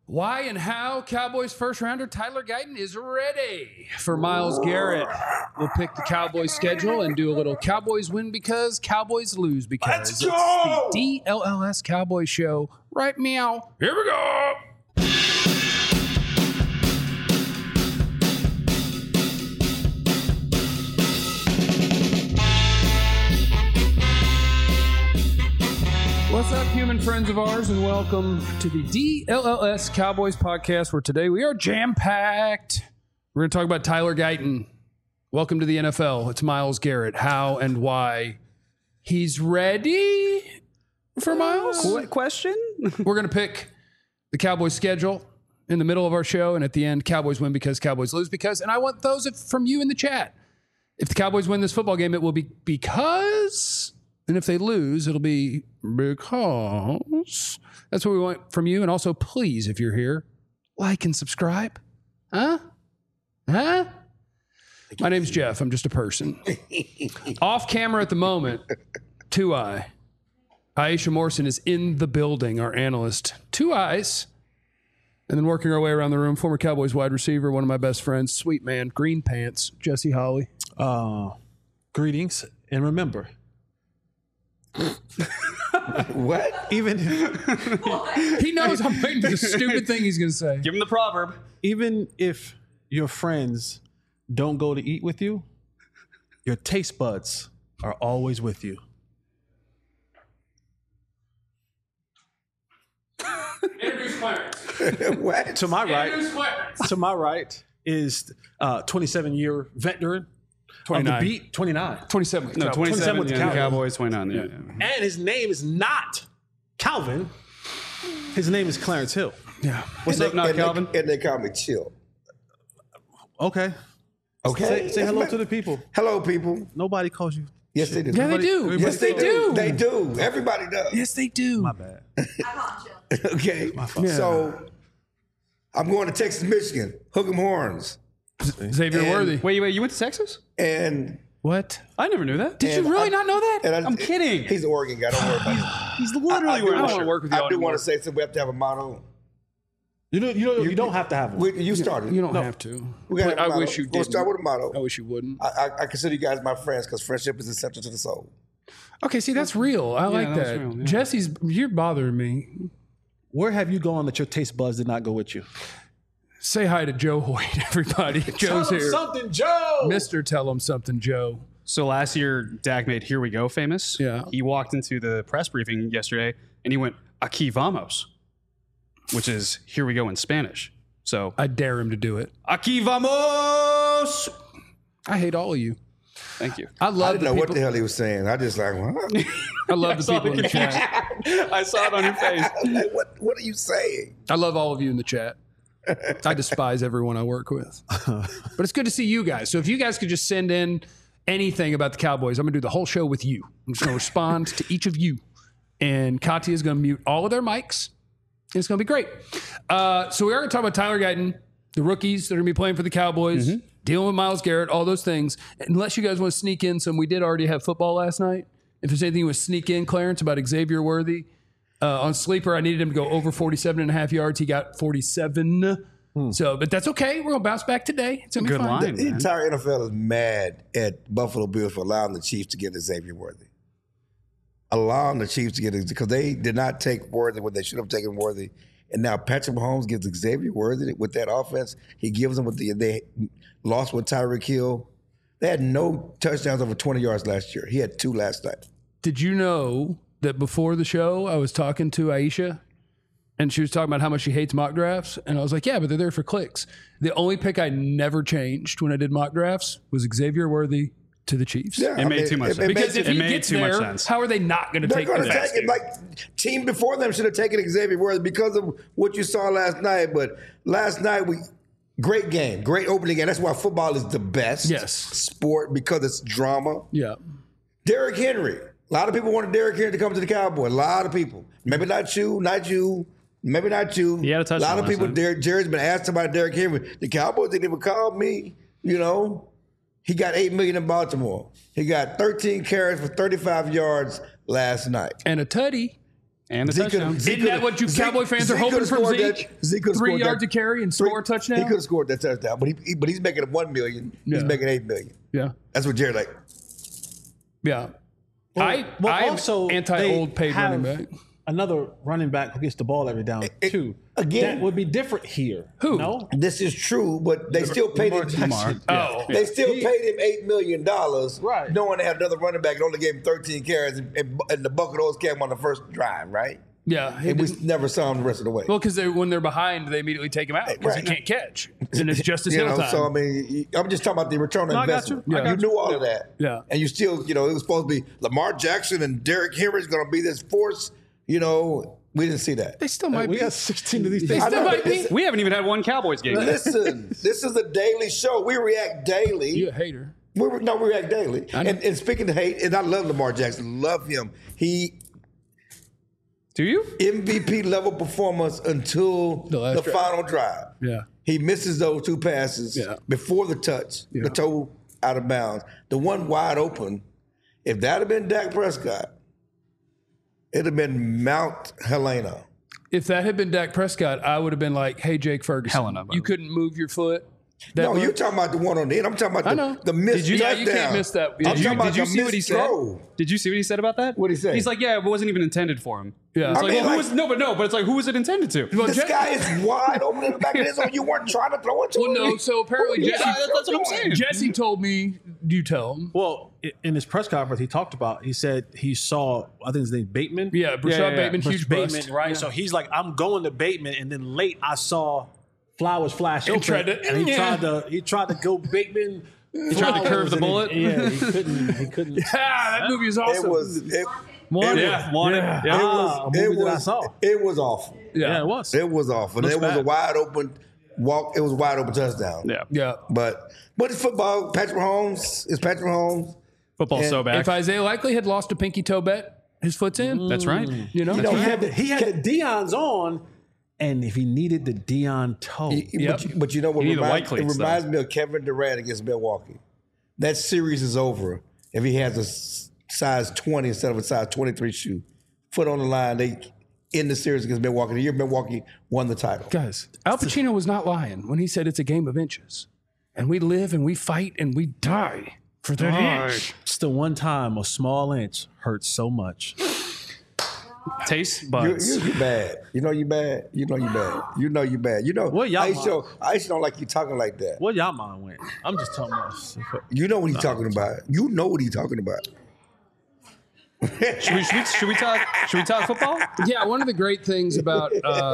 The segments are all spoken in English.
Why and how Cowboys first rounder Tyler Guyton is ready for Myles Garrett. We'll pick the Cowboys schedule and do a little Cowboys win because, Cowboys lose because. Let's go! It's the DLLS Cowboys show. Right, meow. Here we go. What's up, human friends of ours, and welcome to the DLLS Cowboys podcast, where today we are jam-packed. We're going to talk about Tyler Guyton. Welcome to the NFL. It's Myles Garrett. How and why he's ready for Myles? Question? We're going to pick the Cowboys schedule in the middle of our show, and at the end, Cowboys win because, Cowboys lose because, and I want those from you in the chat. If the Cowboys win this football game, it will be because... And if they lose, it'll be because. That's what we want from you. And also, please, if you're here, like and subscribe. Huh? My name's Jeff. I'm just a person. Off camera at the moment, 2i. Aisha Morrison is in the building, our analyst. 2 eyes. And then working our way around the room, former Cowboys wide receiver, one of my best friends, sweet man, green pants, Jesse Holly. Greetings, and remember... What? Even He knows I'm waiting for the stupid thing he's going to say. Give him the proverb. even if your friends don't go to eat with you, your taste buds are always with you. Introduce Clarence. What? To my right, Introduce Clarence. to my right is 27-year veteran 29. of the beat, 29. 27. No, 27 with the with the Cowboys. Cowboys, 29. Yeah. And his name is not Calvin. His name is Clarence Hill. Yeah. What's up, not Calvin? And they call me Chill. Okay. Okay. Say hello to the people. Hello, people. Nobody calls you. Yes, they do. Yeah, they do. Everybody- Yes, they do. They do. Everybody does. Yes, they do. My bad. Okay. Yeah. So I'm going to Texas, Michigan. Hook 'em horns. Xavier And- Worthy. Wait, you went to Texas? And What? I never knew that. Did you And really I- not know that? and I'm kidding. He's an Oregon guy. Don't worry about it. He's literally do wearing want- a shirt. work with you I do anymore. want to say something. We have to have a motto. You don't have to have one. You started. You don't have to. We gotta have a I motto. wish you We'll did. start with a motto. I wish you wouldn't. I consider you guys my friends because friendship is essential to the soul. Okay, see, that's real. I like that's that. real, yeah. Jesse's, you're bothering me. Where have you gone that your taste buds did not go with you? Say hi to Joe Hoyt, everybody. Joe's here. something, Joe. Mr. Tell him something, Joe. So last year, Dak made Here We Go famous. Yeah. He walked into the press briefing yesterday and he went, Aquí vamos, which is Here We Go in Spanish. So, I dare him to do it. Aquí vamos. I hate all of you. Thank you. I I love didn't the know what people. the hell he was saying. I just like, what? I love the people in the chat. I saw it on your face. Like, what are you saying? I love all of you in the chat. I despise everyone I work with. But it's good to see you guys. So if you guys could just send in anything about the Cowboys, I'm going to do the whole show with you. I'm just going to respond to each of you. And Katya is going to mute all of their mics. And it's going to be great. So we are going to talk about Tyler Guyton, the rookies that are going to be playing for the Cowboys, dealing with Myles Garrett, all those things. Unless you guys want to sneak in some, we did already have football last night. If there's anything you want to sneak in, Clarence, about Xavier Worthy, on Sleeper, I needed him to go over 47.5 yards. He got 47. So, but that's okay. We're going to bounce back today. It's going to be Good fine. line, The man. entire NFL is mad at Buffalo Bills for allowing the Chiefs to get Xavier Worthy. Allowing the Chiefs to get it because they did not take Worthy when they should have taken Worthy. And now Patrick Mahomes gives Xavier Worthy with that offense. He gives them they lost with Tyreek Hill. They had no touchdowns over 20 yards last year. He had 2 last night. Did you know that before the show, I was talking to Aisha and she was talking about how much she hates mock drafts? And I was like, yeah, but they're there for clicks. The only pick I never changed when I did mock drafts was Xavier Worthy to the Chiefs. Yeah, It made too much sense. Because if It he made gets too much there, sense. how are they not going to They're take going the to take it. Like team before them should have taken Xavier Worthy because of what you saw last night. But last night great game, great opening game. That's why football is the best sport because it's drama. Yeah. Derrick Henry. A lot of people wanted Derrick Henry to come to the Cowboys. A lot of people. Maybe not you, maybe not you. He had a touchdown lot of last people. night. Jerry's been asked about Derrick Henry. The Cowboys didn't even call me. You know, he got $8 million in Baltimore. He got 13 carries for 35 yards last night. And a tutty. And a Zeke touchdown. Zeke Isn't that what you Cowboy fans are hoping from Zeke? Zeke could've 3 scored yards that- to carry and score a touchdown? He could have scored that touchdown, but he's making it $1 million. Yeah. He's making $8 million. Yeah. That's what Jared like. Yeah. I also anti-old they paid have running back. Another running back who gets the ball every down too. again- that would be different here. Who? No, This is true, but they still paid him. Lamar. Oh. They still paid him $8 million, Right. knowing they had another running back and only gave him 13 carries, and the bulk of those came on the first drive, right? Yeah. And we never saw him the rest of the way. Well, because when they're behind, they immediately take him out because Right. he can't catch. And it's Justice You Hill know, time. so I mean, I'm just talking about the return on I got investment. you. I got You knew all of that. Yeah. And you still, it was supposed to be Lamar Jackson and Derrick Henry is going to be this force. We didn't see that. they still might we be. got 16 of these They things. still know, might but be. We haven't even had one Cowboys game. Listen, this is a daily show. We react daily. You a hater. We react daily. I know. And speaking of hate, and I love Lamar Jackson, love him. He Do you? MVP level performance until The last the drive. final drive. Yeah. He misses those two passes Yeah. before the touch, Yeah. the toe out of bounds. The one wide open, if that had been Dak Prescott, it'd have been Mount Helena. If that had been Dak Prescott, I would have been like, hey, Jake Ferguson, Helena, by you the way. couldn't move your foot. That No, much? you're talking about the one on the end. I'm talking about I know. the missed Yeah, you touchdown. can't miss that. I'm Did talking you- about Did you the see what he missed said? throw. Did you see what he said about that? What'd he say? He's like, yeah, it wasn't even intended for him. Yeah. It's I like, mean, well, like- but it's like, who was it intended to? Well, This guy is wide open in the back of his zone. You weren't trying to throw it to Well, him. no. So apparently, Yeah, Jesse, that's what I'm saying. Jesse told me, you tell him. Well, in his press conference, he said he saw, I think his name Bateman. Yeah, Brashad yeah, yeah. Bateman, huge Bateman, bust. right? So he's like, I'm going to Bateman, and then late I saw Flowers flash And open, tried to- and yeah. he tried to go Bateman. He tried to curve the bullet? Yeah, he couldn't. Ah, that movie is awesome. It was. One. it Yeah. Wanted. Yeah. Yeah. Ah, a movie that I saw. It was awful. Yeah, it was. It was awful. And Looks it was a bad. wide open walk. It was a wide open touchdown. Yeah. Yeah. But it's football. Patrick Mahomes is Patrick Mahomes. Football's so bad. If Isaiah Likely had lost a pinky toe bet, his foot's in. That's right. You know? He had the Dion's on, and if he needed the Dion toe, Yep. But you know what You need the white it cleats, reminds me of Kevin Durant against Milwaukee. That series is over if he has a size 20 instead of a size 23 shoe. Foot on the line, they end the series against Milwaukee. The year Milwaukee won the title. Guys, Al Pacino was not lying when he said it's a game of inches. And we live and we fight and we die for that inch. it's the one time a small inch hurts so much. Taste buds. You bad. You know you bad. You know you bad. You know you bad. You know. Well, y'all I used to don't like you talking like that. Well, y'all mind went. I'm just talking about. You know what he's talking about. You know what he's talking about. Should we talk football? Yeah, one of the great things about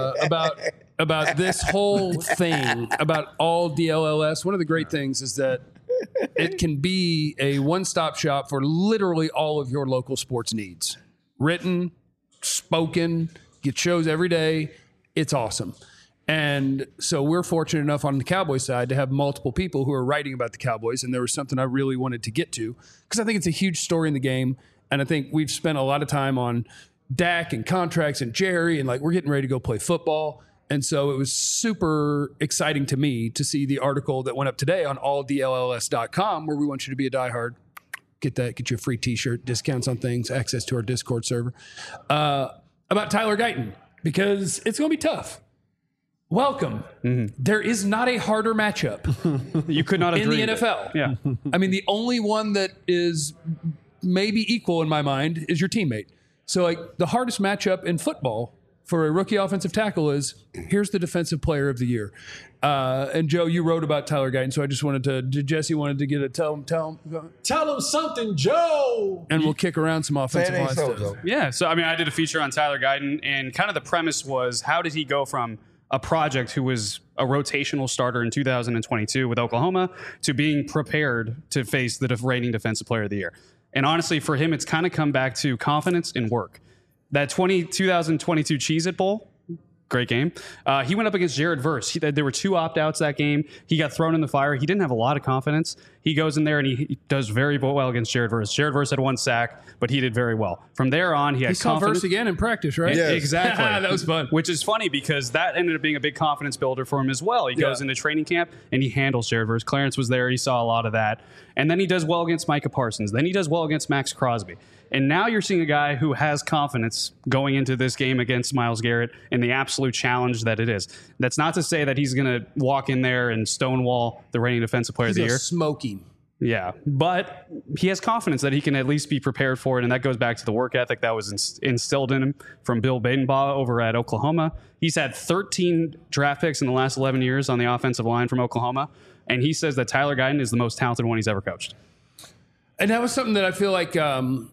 this whole thing, about all DLLS, one of the great things is that it can be a one-stop shop for literally all of your local sports needs. Written, spoken, get shows every day. It's awesome. And so we're fortunate enough on the Cowboys side to have multiple people who are writing about the Cowboys. And there was something I really wanted to get to because I think it's a huge story in the game. And I think we've spent a lot of time on Dak and contracts and Jerry, and like we're getting ready to go play football. And so it was super exciting to me to see the article that went up today on alldlls.com where we want you to be a diehard. Get you a free t-shirt, discounts on things, access to our Discord server, about Tyler Guyton, because it's going to be tough. Welcome. There is not a harder matchup You could not have in the dreamed it. NFL. Yeah. I mean, the only one that is maybe equal in my mind is your teammate. So, like, the hardest matchup in football for a rookie offensive tackle is here's the defensive player of the year. And Joe, you wrote about Tyler Guyton, so I just wanted to, Jesse wanted to get a tell him, Tell him something, Joe. and we'll kick around some offensive That line ain't so, stuff. though. Yeah. So, I mean, I did a feature on Tyler Guyton, and kind of the premise was how did he go from a project who was a rotational starter in 2022 with Oklahoma to being prepared to face the reigning defensive player of the year. And honestly, for him, it's kind of come back to confidence and work. That 2022 Cheez-It Bowl, great game. He went up against Jared Verse. There were 2 opt-outs that game. He got thrown in the fire. He didn't have a lot of confidence. He goes in there and he does very well against Jared Verse. Jared Verse had 1 sack, but he did very well. From there on, he had He saw confidence. Verse again in practice, right? Yeah. Exactly. That was fun. Which is funny because that ended up being a big confidence builder for him as well. He goes Yeah. into training camp and he handles Jared Verse. Clarence was there. He saw a lot of that. And then he does well against Micah Parsons. Then he does well against Max Crosby. And now you're seeing a guy who has confidence going into this game against Myles Garrett and the absolute challenge that it is. That's not to say that he's going to walk in there and stonewall the reigning defensive player of the year. Smoking. Yeah, but he has confidence that he can at least be prepared for it, and that goes back to the work ethic that was instilled in him from Bill Badenbaugh over at Oklahoma. He's had 13 draft picks in the last 11 years on the offensive line from Oklahoma, and he says that Tyler Guyton is the most talented one he's ever coached. And that was something that I feel like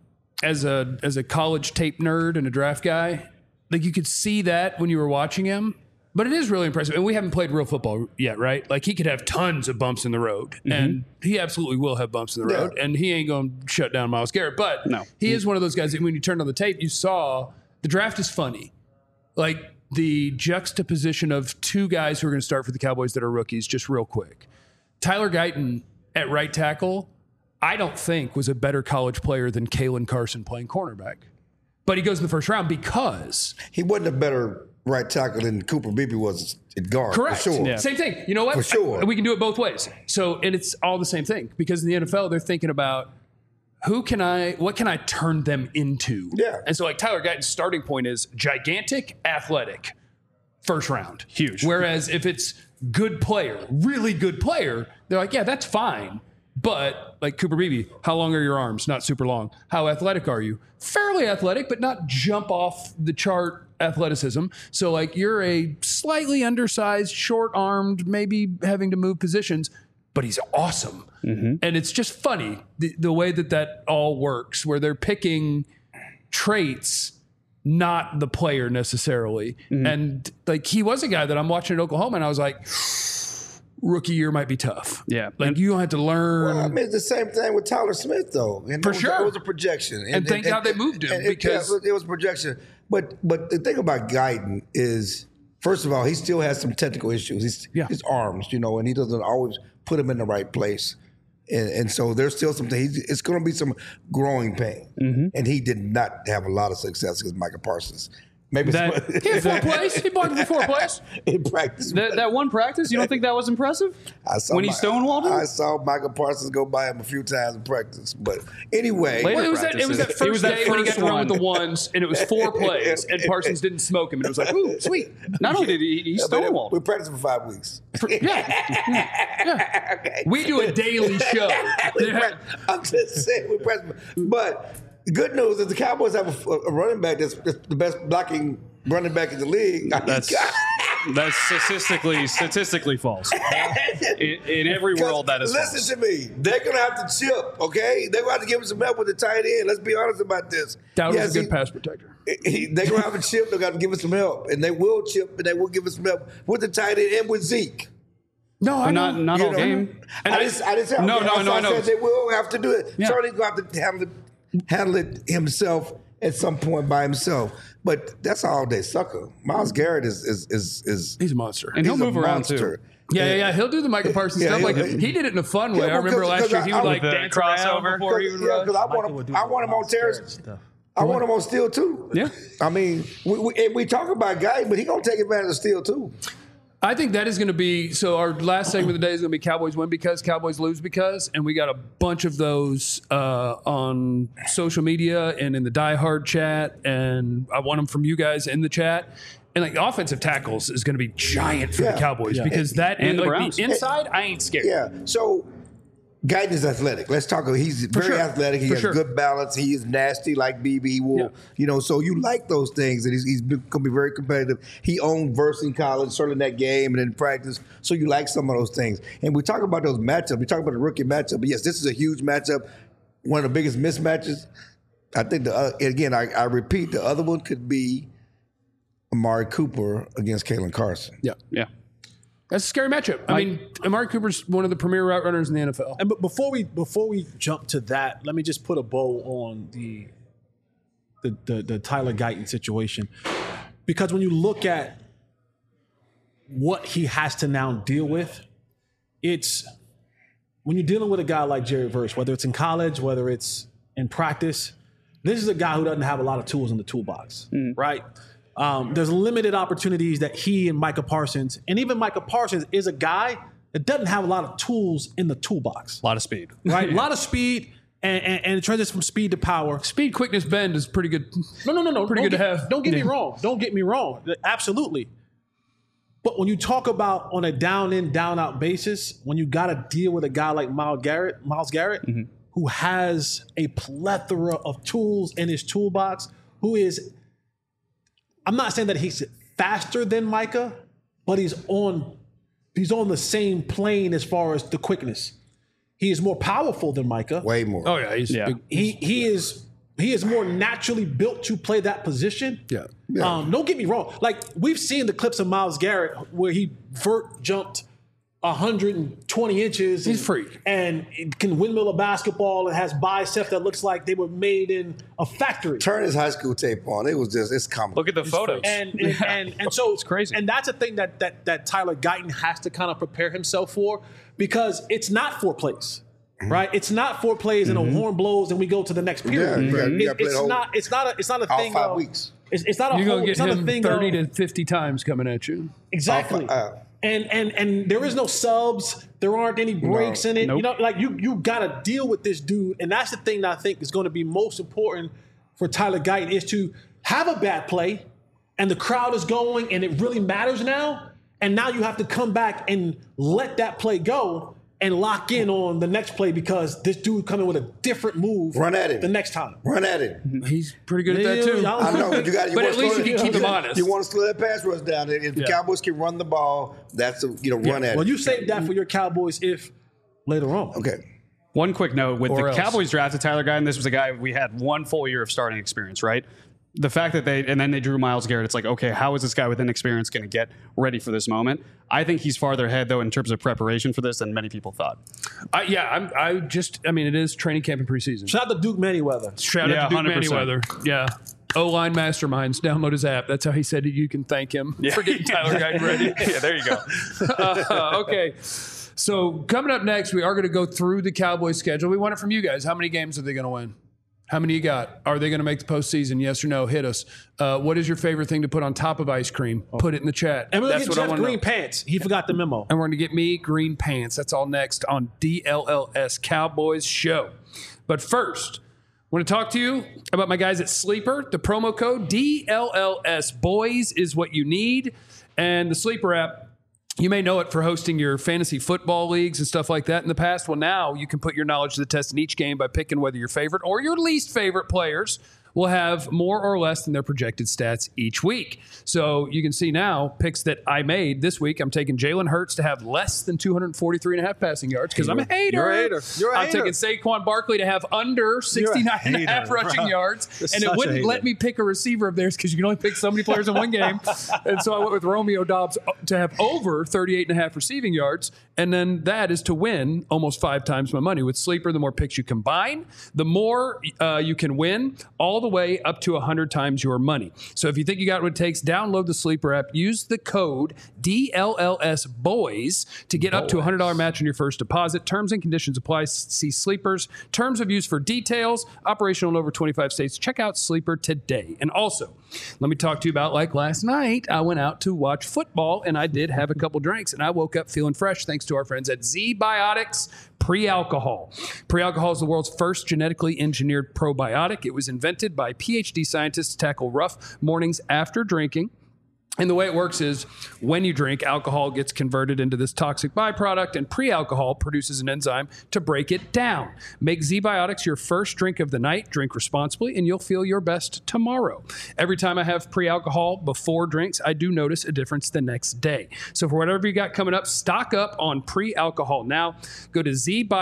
as a college tape nerd and a draft guy, like you could see that when you were watching him. But it is really impressive. And we haven't played real football yet, right? Like he could have tons of bumps in the road. And he absolutely will have bumps in the road. And he ain't going to shut down Myles Garrett. But he is one of those guys that when you turned on the tape, you saw the draft is funny. Like the juxtaposition of two guys who are going to start for the Cowboys that are rookies, just real quick. Tyler Guyton at right tackle, I don't think was a better college player than Kalen Carson playing cornerback. But he goes in the first round because he wasn't a better right tackle than Cooper Beebe was at guard. Correct. For sure. Yeah. Same thing. You know what? For sure. We can do it both ways. So, and it's all the same thing because in the NFL, they're thinking about what can I turn them into? Yeah. And so like Tyler Guyton's starting point is gigantic, athletic, first round. Huge. Whereas if it's good player, really good player, they're like, yeah, that's fine. But like Cooper Beebe, how long are your arms? Not super long. How athletic are you? Fairly athletic, but not jump off the chart athleticism. So like you're a slightly undersized, short-armed, maybe having to move positions, but he's awesome. And it's just funny the way that all works, where they're picking traits, not the player necessarily. And like he was a guy that I'm watching at Oklahoma, and I was like, rookie year might be tough. Yeah. Like you don't have to learn. Well, I mean, it's the same thing with Tyler Smith, though. And For sure. It was a projection. And thank God they moved him because it was a projection. But the thing about Guyton is, first of all, he still has some technical issues. His arms, and he doesn't always put them in the right place. And so there's still something. It's going to be some growing pain. And he did not have a lot of success against Micah Parsons. Maybe he had 4 plays. He blocked for 4 plays. In practice. That one practice, you don't think that was impressive? When he stonewalled him? I saw Micah Parsons go by him a few times in practice. But anyway. Well, it was that first day when he got to run with the ones, and it was 4 plays, and Parsons didn't smoke him. And it was like, ooh, sweet. Not only did he stonewalled. We practiced for 5 weeks. Yeah. Okay. We do a daily show. I'm just saying we practice. But the good news is the Cowboys have a running back that's the best blocking running back in the league. That's statistically false. In every world, that is false. Listen to me. They're going to have to chip, okay? They're going to have to give him some help with the tight end. Let's be honest about this. Dowdle's a good pass protector. They're going to have to chip. They're going to give us some help. And they will chip, and they will give us some help with the tight end and with Zeke. No, I know. Not all game. And I didn't say No. I said they will have to do it. Yeah. Charlie's going to have to handle it himself at some point by himself. But that's all day sucker. Myles Garrett is he's a monster. And he'll move around too. Yeah. He'll do the Micah Parsons stuff. Like he did it in a fun way. I remember last year he would like dance crossover before he would run. Because I want him on terrace. I want him on steel too. Yeah. I mean, we talk about Guyton, but he's going to take advantage of steel too. I think that is going to be, so our last segment of the day is going to be Cowboys win because, Cowboys lose because, and we got a bunch of those on social media and in the Die Hard chat, and I want them from you guys in the chat. And like offensive tackles is going to be giant for the Cowboys because that and and the like Browns. the inside, I ain't scared. Yeah. So Guyton is athletic. Let's talk. He's very athletic. He has good balance. He is nasty like BB. He will, so you like those things, and he's going to be very competitive. He owned Verse in college, certainly in that game and in practice. So you like some of those things. And we talk about those matchups. We talk about the rookie matchup. But yes, this is a huge matchup. One of the biggest mismatches. I think I repeat, the other one could be Amari Cooper against Kalen Carson. Yeah. That's a scary matchup. I mean, Amari Cooper's one of the premier route runners in the NFL. And but before we jump to that, let me just put a bow on the Tyler Guyton situation, because when you look at what he has to now deal with, it's when you're dealing with a guy like Jerry Verse, whether it's in college, whether it's in practice, this is a guy who doesn't have a lot of tools in the toolbox, right? There's limited opportunities that he and Micah Parsons, and even Micah Parsons is a guy that doesn't have a lot of tools in the toolbox. A lot of speed. Right? A lot of speed, and transition from speed to power. Speed, quickness, bend is pretty good. No. Pretty good to have. Don't get me Yeah. wrong. Don't get me wrong. Absolutely. But when you talk about on a down in, down out basis, when you got to deal with a guy like Myles Garrett, who has a plethora of tools in his toolbox, who is, I'm not saying that he's faster than Micah, but he's on the same plane as far as the quickness. He is more powerful than Micah. Way more. Oh yeah, he's big. He is more naturally built to play that position. Yeah. Don't get me wrong. Like, we've seen the clips of Myles Garrett where he vert jumped 120 inches. He's a freak. And it can windmill a basketball and has biceps that looks like they were made in a factory. Turn his high school tape on. It was just, it's comical. Look at the photos. And so it's crazy. And that's a thing that Tyler Guyton has to kind of prepare himself for, because it's not 4 plays. Right, it's not 4 plays and a horn blows and we go to the next period. Yeah, you gotta play the whole- It's not a all thing. 5 weeks. It's not a You're whole. gonna get It's not a him thing. 30 to 50 times coming at you. Exactly. And there is no subs. There aren't any breaks in it. Nope. You know, like you got to deal with this dude, and that's the thing that I think is going to be most important for Tyler Guyton, is to have a bad play, and the crowd is going, and it really matters now. And now you have to come back and let that play go and lock in on the next play, because this dude coming with a different move. Run at him. The next time. Run at it. He's pretty good at that too. I know, but you got. But at least you can keep him honest. You want to slow that pass rush down. If the Cowboys can run the ball, that's run at it. Well, you save that for your Cowboys if later on. Okay. One quick note, with Or the else. Cowboys drafted Tyler Guyton, this was a guy we had 1 full year of starting experience, right? The fact that then they drew Myles Garrett, it's like, okay, how is this guy with inexperience going to get ready for this moment? I think he's farther ahead, though, in terms of preparation for this than many people thought. I mean, it is training camp and preseason. Shout out to Duke Manyweather. Shout out to Duke 100%. Manyweather. Yeah. O-line masterminds. Download his app. That's how he said you can thank him for getting Tyler Guyton ready. Yeah, there you go. Okay. So coming up next, we are going to go through the Cowboys schedule. We want it from you guys. How many games are they going to win? How many you got? Are they going to make the postseason? Yes or no? Hit us. What is your favorite thing to put on top of ice cream? Put it in the chat. And we're going That's to get what I Jeff want to green know. pants. He forgot the memo. And we're going to get me green pants. That's all next on DLLS Cowboys Show. But first, I want to talk to you about my guys at Sleeper. The promo code DLLS Boys is what you need. And the Sleeper app, you may know it for hosting your fantasy football leagues and stuff like that in the past. Well, now you can put your knowledge to the test in each game by picking whether your favorite or your least favorite players will have more or less than their projected stats each week. So you can see now picks that I made this week. I'm taking Jalen Hurts to have less than 243.5 passing yards because I'm a hater. You're a hater. You're a I'm hater. taking Saquon Barkley to have under 69.5 hater, rushing bro. yards. You're And such it a wouldn't hater. let me pick a receiver of theirs because you can only pick so many players in one game. And so I went with Romeo Doubs to have over 38.5 receiving yards. And then that is to win almost 5 times my money. With Sleeper, the more picks you combine, the more you can win, all the way up to 100 times your money. So if you think you got what it takes, download the Sleeper app. Use the code DLLSBOYS to get up to a $100 match on your first deposit. Terms and conditions apply. See Sleeper's terms of use for details. Operational in over 25 states. Check out Sleeper today. And also, let me talk to you about, like last night, I went out to watch football and I did have a couple drinks and I woke up feeling fresh thanks to our friends at Z-Biotics Pre-Alcohol. Pre-Alcohol is the world's first genetically engineered probiotic. It was invented by PhD scientists to tackle rough mornings after drinking. And the way it works is when you drink, alcohol gets converted into this toxic byproduct, and pre-alcohol produces an enzyme to break it down. Make Z-Biotics your first drink of the night. Drink responsibly, and you'll feel your best tomorrow. Every time I have pre-alcohol before drinks, I do notice a difference the next day. So for whatever you got coming up, stock up on pre-alcohol now. Go to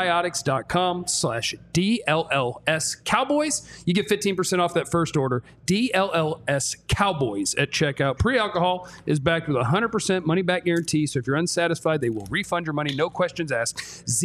zbiotics.com/DLLS Cowboys. You get 15% off that first order. DLLS Cowboys at checkout. Pre-alcohol is backed with a 100% money-back guarantee. So if you're unsatisfied, they will refund your money. No questions asked.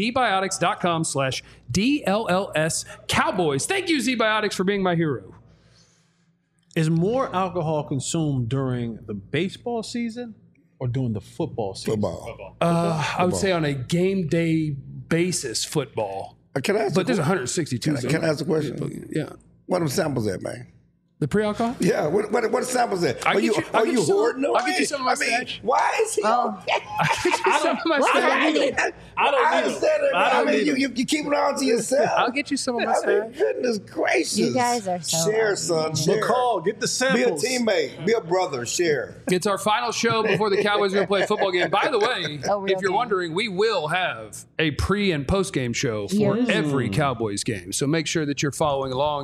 zbiotics.com/DLLS Cowboys. Thank you, Z-Biotics, for being my hero. Is more alcohol consumed during the baseball season or during the football season? Football. I would say on a game day basis, football. Can I ask But there's 162. Can I ask a question? Yeah. What are them samples at, man? The pre-alcohol? Yeah, what samples that? I'll Are get you you- I'll get you some- hoarding away? I'll get you some of my stash. Why is he? Oh. Some of my What's stash. happening? I don't I need understand them. it. I don't I mean, need you keep it on to yourself. I'll get you some of my I mean, stash. goodness gracious. You guys are so Share, ugly. son. Share. McCall, get the Be a samples. teammate. Be a brother. Share. It's our final show before the Cowboys are going to play a football game. By the way, Oh, real if you're game. wondering, we will have a pre- and post-game show for Yes. every Cowboys game. So make sure that you're following along.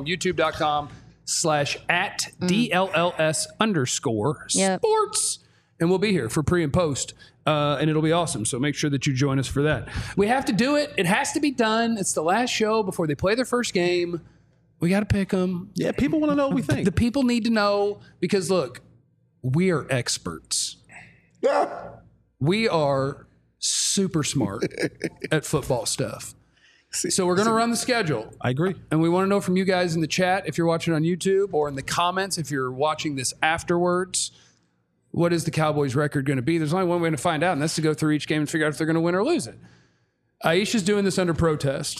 YouTube.com/@DLLS_sports. And we'll be here for pre and post. And it'll be awesome. So make sure that you join us for that. We have to do it. It has to be done. It's the last show before they play their first game. We got to pick them. Yeah, people want to know what we think. The people need to know because, look, we are experts. We are super smart at football stuff. So we're going to run the schedule. I agree. And we want to know from you guys in the chat, if you're watching on YouTube, or in the comments, if you're watching this afterwards, what is the Cowboys' record going to be? There's only one way to find out, and that's to go through each game and figure out if they're going to win or lose it. Aisha's doing this under protest.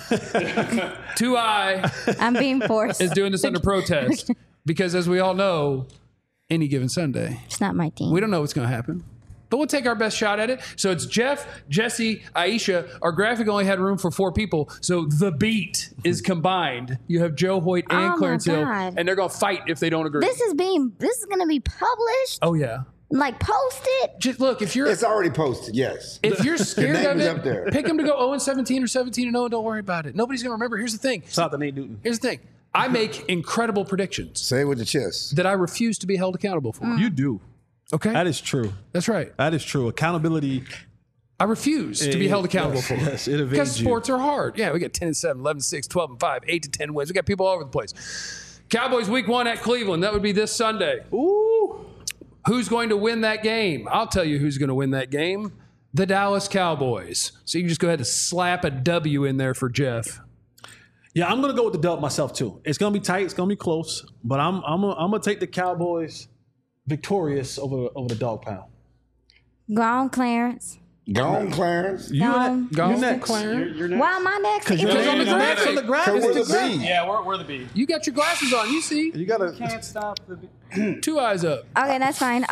2i I'm being forced. is doing this under protest because, as we all know, any given Sunday, It's not my team. we don't know what's going to happen. But we'll take our best shot at it. So it's Jeff, Jesse, Aisha. Our graphic only had room for 4 people. So the beat is combined. You have Joe Hoyt and Oh, my Clarence Hill. God. And they're going to fight if they don't agree. This is going to be published, oh, yeah. like posted. Just look, if you're It's already posted. Yes. if you're scared name of is it, up there. pick them to go 0-17 or 17-0. Don't worry about it. Nobody's going to remember. Here's the thing. Shout out to Nate Newton. Here's the thing. I make incredible predictions Say it with your chest. that I refuse to be held accountable for. You do. Okay? That is true. That's right. That is true. Accountability. I refuse to be held accountable for. Yes, it evades Because you. sports are hard. Yeah, we got 10-7, 11-6, 12-5, 8-10 wins. We got people all over the place. Cowboys week 1 at Cleveland. That would be this Sunday. Ooh. Who's going to win that game? I'll tell you who's going to win that game. The Dallas Cowboys. So you can just go ahead and slap a W in there for Jeff. Yeah, I'm gonna go with the dub myself too. It's gonna be tight. It's gonna be close. But I'm gonna take the Cowboys victorious over the dog pound. Go on, Clarence. Gone, Clarence. You Gone. Go you on, next. Clarence. You're next. Why am I next? Because you're It's on the next graphic. on the graphic. Because we're the B. Yeah, we're the B. You got your glasses on. You see. You gotta. Can't stop the B. 2 eyes up. Okay, that's fine.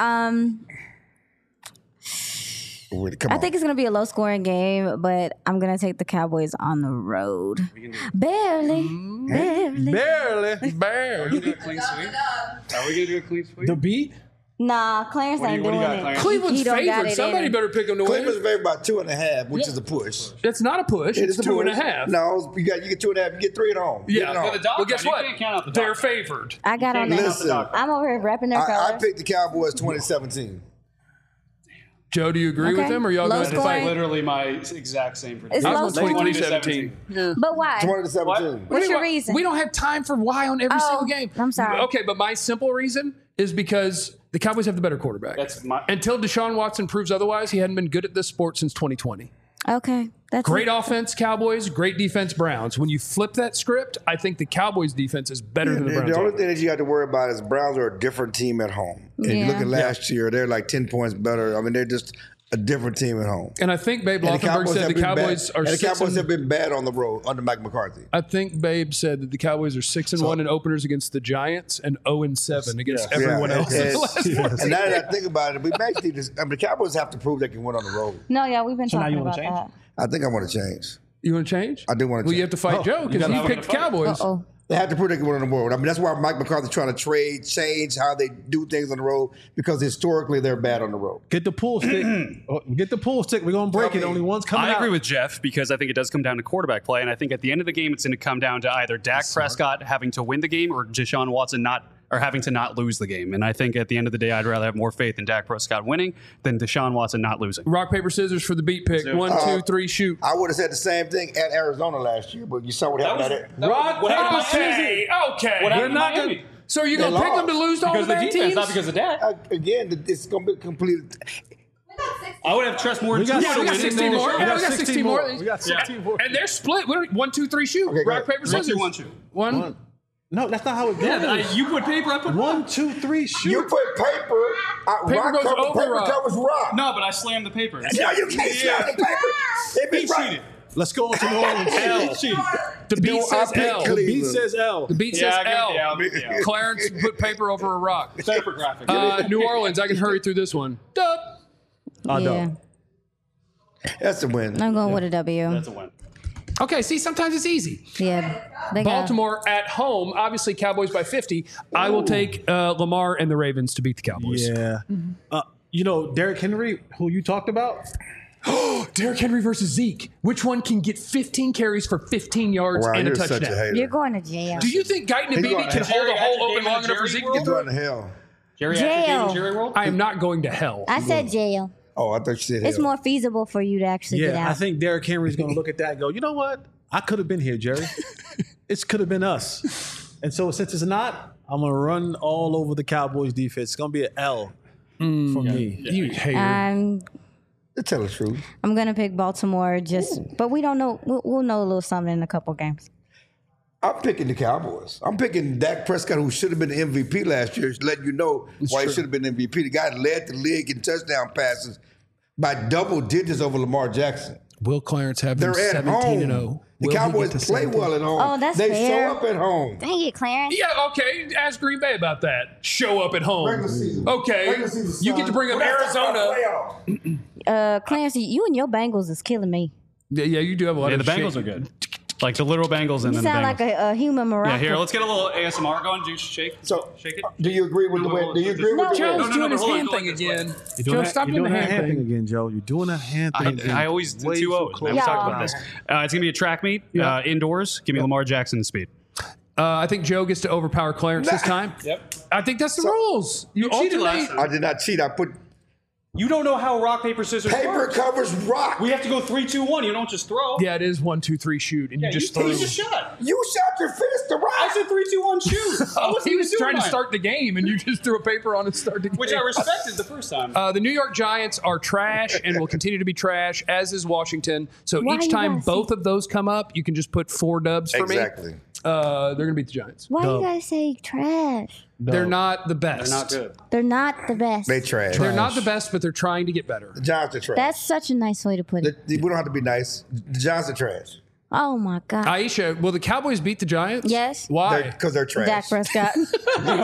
Come I on. think it's gonna be a low scoring game, but I'm gonna take the Cowboys on the road. Barely. Barely. Bear. Are we gonna do a clean sweep? Are we gonna do a clean sweep? The beat. Nah, Clarence ain't what do doing you got, it. Clarence? Cleveland's He don't got favored. it Somebody in. better pick them to Cleveland's win. favored by 2.5, which is a push. It's not a push. It It's is a push. 2.5. No, you get 2.5. You get 3 at home. Yeah, Get it but home. the dog Well, guess pound, what? you can't count out the They're dog pound. favored. I got on can't that. Listen, I'm over here repping their I colors. picked the Cowboys 2017. Joe, do you agree Okay. with him, or y'all Low going to scoring. fight? Literally my exact same It's prediction. low Ours was scoring. 2017. But why? 20 to 17. What's your reason? We don't have time for why on every Oh, single game. I'm sorry. Okay, but my simple reason is because the Cowboys have the better quarterback. That's my. Until Deshaun Watson proves otherwise, he hadn't been good at this sport since 2020. Okay, that's Great it. offense, Cowboys. Great defense, Browns. When you flip that script, I think the Cowboys' defense is better than the Browns. The only offense. thing that you got to worry about is Browns are a different team at home. And you Yeah. look at last year, they're like 10 points better. I mean, they're just a different team at home. And I think Babe And Lothenberg said the been Cowboys bad. are And the 6 Cowboys have and, been bad on the road under Mike McCarthy. I think Babe said that the Cowboys are 6-1 in openers against the Giants and 0-7 against everyone Yeah, else. and- in the last and 14 now that games. I think about it, we actually just, I mean, the Cowboys have to prove they can win on the road. No, yeah, we've been So now talking you wanna about change? that. I think I want to change. You want to change? I do wanna Well, you change. have to fight Oh, Joe you because gotta he have picked the Cowboys. Uh-oh. They have to prove they can win on the road. I mean, that's why Mike McCarthy's trying to change how they do things on the road because historically they're bad on the road. Get the pool stick. Get the pool stick. We're gonna break it. Only one's coming I out. agree with Jeff because I think it does come down to quarterback play, and I think at the end of the game, it's going to come down to either Dak Prescott having to win the game or Deshaun Watson having to not lose the game. And I think at the end of the day, I'd rather have more faith in Dak Prescott winning than Deshaun Watson not losing. Rock, paper, scissors for the beat pick. do it. 1, 2, 3, shoot. I would have said the same thing at Arizona last year, but you saw what happened at it. Rock, What happened paper, to scissors. Okay. We're not not gonna- So you're going to They pick them to lost. lose to all because the of the bad defense, teams? not because of Dak. Again, it's going to be complete. I would have trust more in We got Yeah, we got 16 more. We Yeah, got we got 16 more. We got 16 more. And they're split. 1, 2, 3, shoot. Okay, go Rock, ahead. paper, scissors. 1, 2, 1, 2. One. No, that's not how it goes. Yeah, you put paper, I put 1, 2, 3, shoot. You put paper, Paper rock goes covers over paper rock. covers rock. No, but I slammed the paper. No, you can't slam the paper. If He it's right. cheated. Let's go on to New Orleans. He cheated. The beat No, says I picked L. Cleveland. Beat says L. The beat Yeah, says I agree L. with the L. Clarence put paper over a rock. Paper graphic. New Orleans, I can hurry through this one. Dub. Yeah, That's a win. I'm going with a W. That's a win. Okay, see, sometimes it's easy. Yeah, they got Baltimore at home, obviously Cowboys by 50. I will take Lamar and the Ravens to beat the Cowboys. Yeah. You know, Derrick Henry, who you talked about, Derrick Henry versus Zeke. Which one can get 15 carries for 15 yards Wow, and a you're such a touchdown? hater. You're going to jail. Do you think Guyton and He's Beebe going can to hold a hole Jerry open long enough for Jerry Zeke to World? get He's through? going to hell. Jerry Jail. Jerry World? I am not going to hell. I said jail. Oh, I thought you said It's hell. more feasible for you to actually get yeah, out. I think Derrick Henry's going to look at that and go, you know what? I could have been here, Jerry. It could have been us. And so since it's not, I'm going to run all over the Cowboys defense. It's going to be an L for me. You hater. To tell the truth. I'm gonna pick Baltimore. But we don't know. We'll know a little something in a couple games. I'm picking the Cowboys. I'm picking Dak Prescott, who should have been the MVP last year, letting you know why he should have been MVP. The guy led the league in touchdown passes by double digits over Lamar Jackson. Will Clarence have them They're at 17 home. and 0? The Will he get Cowboys to play 17? well at home. Oh, that's they fair. show up at home. Dang it, Clarence. Yeah, okay. Ask Green Bay about that. Show up at home. Regular season. Okay. Regular season, You get to son. bring up But that's not Arizona. playoff. Clarence, you and your Bengals is killing me. Yeah, you do have a lot Yeah, of the Bengals are good. Like the literal Bengals and You then the sound Bengals. like a human miracle. Yeah, here, let's get a little ASMR going. Juice, shake. So, Shake it. do you agree with the win? Do you agree with the Joe's win? doing his hold on, hand go thing like this way. again. You're Joe, doing, stop you're doing doing the that hand thing. again, Joe. You're doing that hand thing again. I always do Way 2-0. too We've close. talked Yeah. about this. It's going to be a track meet, indoors. Give me Lamar Jackson and speed. I think Joe gets to overpower Clarence this time. Yep. I think that's the rules. You cheated alternate. last time. I did not cheat. I put You don't know how rock, paper, scissors paper works. covers rock. We have to go 3, 2, 1. You don't just throw. Yeah, it is 1, 2, 3 shoot, and you just threw. He just shot. You shot your fist to rock. I said 3, 2, 1, shoot. Oh, he was trying to start the game, and you just threw a paper on and started the game. Which I respected the first time. The New York Giants are trash and will continue to be trash, as is Washington. So Why each you time guys both of those come up, you can just put 4 dubs for Exactly. me. They're going to beat the Giants. Why you guys say trash? They're not the best. They're not good. They're not the best. They trash. They're not the best, but they're trying to get better. The Giants are trash. That's such a nice way to put it. We don't have to be nice. The Giants are trash. Oh my God. Aisha, will the Cowboys beat the Giants? Yes. Why? Because they're trash. Dak Prescott. he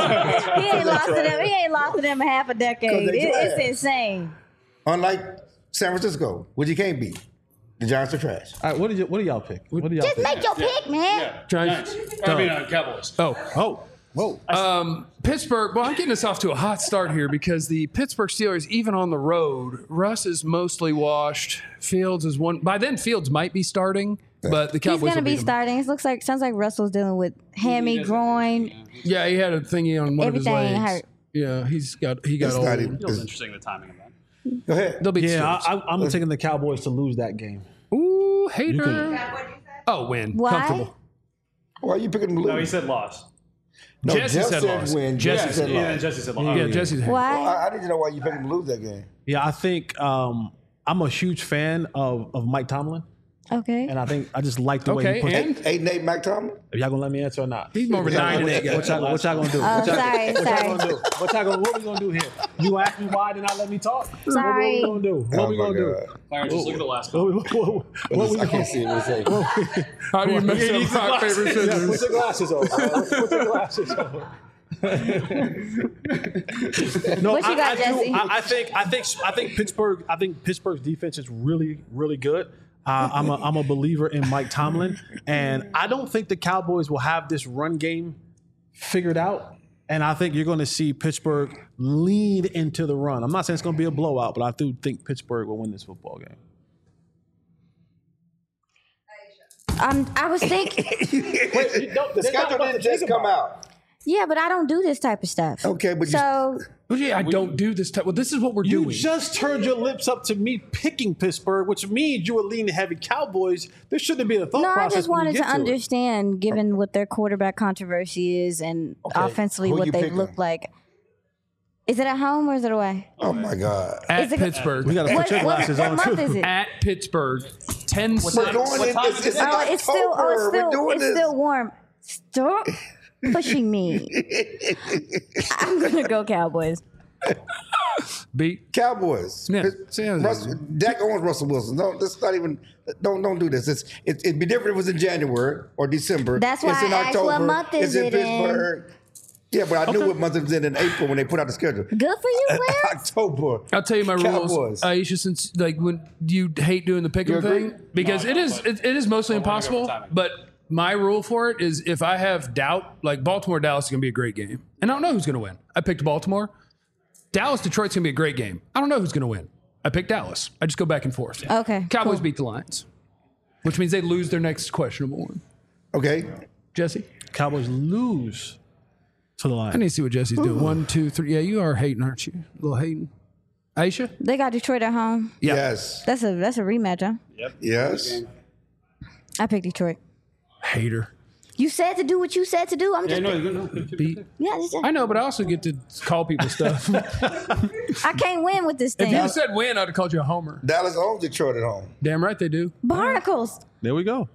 ain't lost to them. He ain't lost to them in half a decade. they It's trash. insane. Unlike San Francisco, which you can't beat. The Giants are trash. All right, what do y'all pick? What do y'all Just pick? make your pick, man. Giants. Cowboys. Oh. Whoa. Pittsburgh, well, I'm getting us off to a hot start here because the Pittsburgh Steelers, even on the road, Russ is mostly washed. Fields is one. By then, Fields might be starting, but the He's Cowboys gonna will be beat him. starting. It sounds like Russell's dealing with hammy, groin. Yeah, he had a thingy on one of his Everything legs. hurt. Yeah, he got It's old. not even. Feels interesting, the timing of that. Go ahead. They'll beat the Yeah, Steelers. I'm taking the Cowboys to lose that game. Ooh, hater. Oh, win. Why? Comfortable. Why are you picking them to lose? No, he said loss. No, Jesse Jeff said loss. win. Jesse Jesse said Yeah, loss. Jesse said loss. Yeah, Jesse's hater. Why? I need to know why you picking them to lose that game. Yeah, I think I'm a huge fan of Mike Tomlin, Okay. and I just like the way Okay, he puts and 8-8 Mike Tomlin? Are y'all gonna let me answer or not? he's more of a 9 and 8 guy. What y'all gonna do? Oh, What sorry. y'all gonna do? What we gonna do here? You asked me why, did not let me talk. Sorry. What we gonna do? What Oh we my gonna do? God. Clarence, just look at the last What call. we I can't see it. What it say. How do you mess up rock, paper, Yeah, scissors? put your glasses on. Put your glasses on. No, What you got, Jesse? I think Pittsburgh. I think Pittsburgh's defense is really, really good. I'm a believer in Mike Tomlin, and I don't think the Cowboys will have this run game figured out. And I think you're going to see Pittsburgh lead into the run. I'm not saying it's going to be a blowout, but I do think Pittsburgh will win this football game. I was thinking. The schedule didn't just come out. Yeah, but I don't do this type of stuff. Okay, but you- so Well, yeah, I don't do this type. Well, this is what we're You doing. just turned your lips up to me picking Pittsburgh, which means you were leaning heavy Cowboys. There shouldn't be a thought no, I process. just when you wanted to get it. understand, given what their quarterback controversy is and offensively Who what you they've picking? looked like. Is it at home or is it away? Oh my God. At Is it- Pittsburgh. We got to put What, your what, glasses what on month too. is it? At Pittsburgh. 10 We're going in. It's in Oh, it's still. October. Oh, it's We're still. doing It's this. still warm. Stop pushing me. I'm gonna go Cowboys. Beat. Cowboys. Yeah. Dak owns Russell Wilson. No, that's not even. Don't do this. It'd be different if it was in January or December. That's why it's in I asked October. what month is it's in it in? Pittsburgh. Yeah, but I knew what month it was in April when they put out the schedule. Good for you, Clarence. October. I'll tell you my Cowboys. rules, Aisha. Since when you hate doing the pick'em You agree? thing, because it is mostly impossible. But my rule for it is if I have doubt, like Baltimore Dallas is going to be a great game, and I don't know who's going to win. I picked Baltimore. Dallas Detroit's going to be a great game. I don't know who's going to win. I picked Dallas. I just go back and forth. Okay, Cowboys cool. beat the Lions, which means they lose their next questionable one. Okay. Jesse, Cowboys lose to the I Lions. need to see what Jesse's doing. 1, 2, 3. Yeah, you are hating, aren't you? A little hating. Aisha? They got Detroit at home. Yeah. Yes. That's a rematch, huh? Yes. I picked Detroit. Hater. You said to do what you said to do. I'm just Beat. yeah. I know, but I also get to call people stuff. I can't win with this If thing. you had said win, I'd have called you a homer. Dallas owns Detroit at home. Damn right they do. Barnacles. There we go.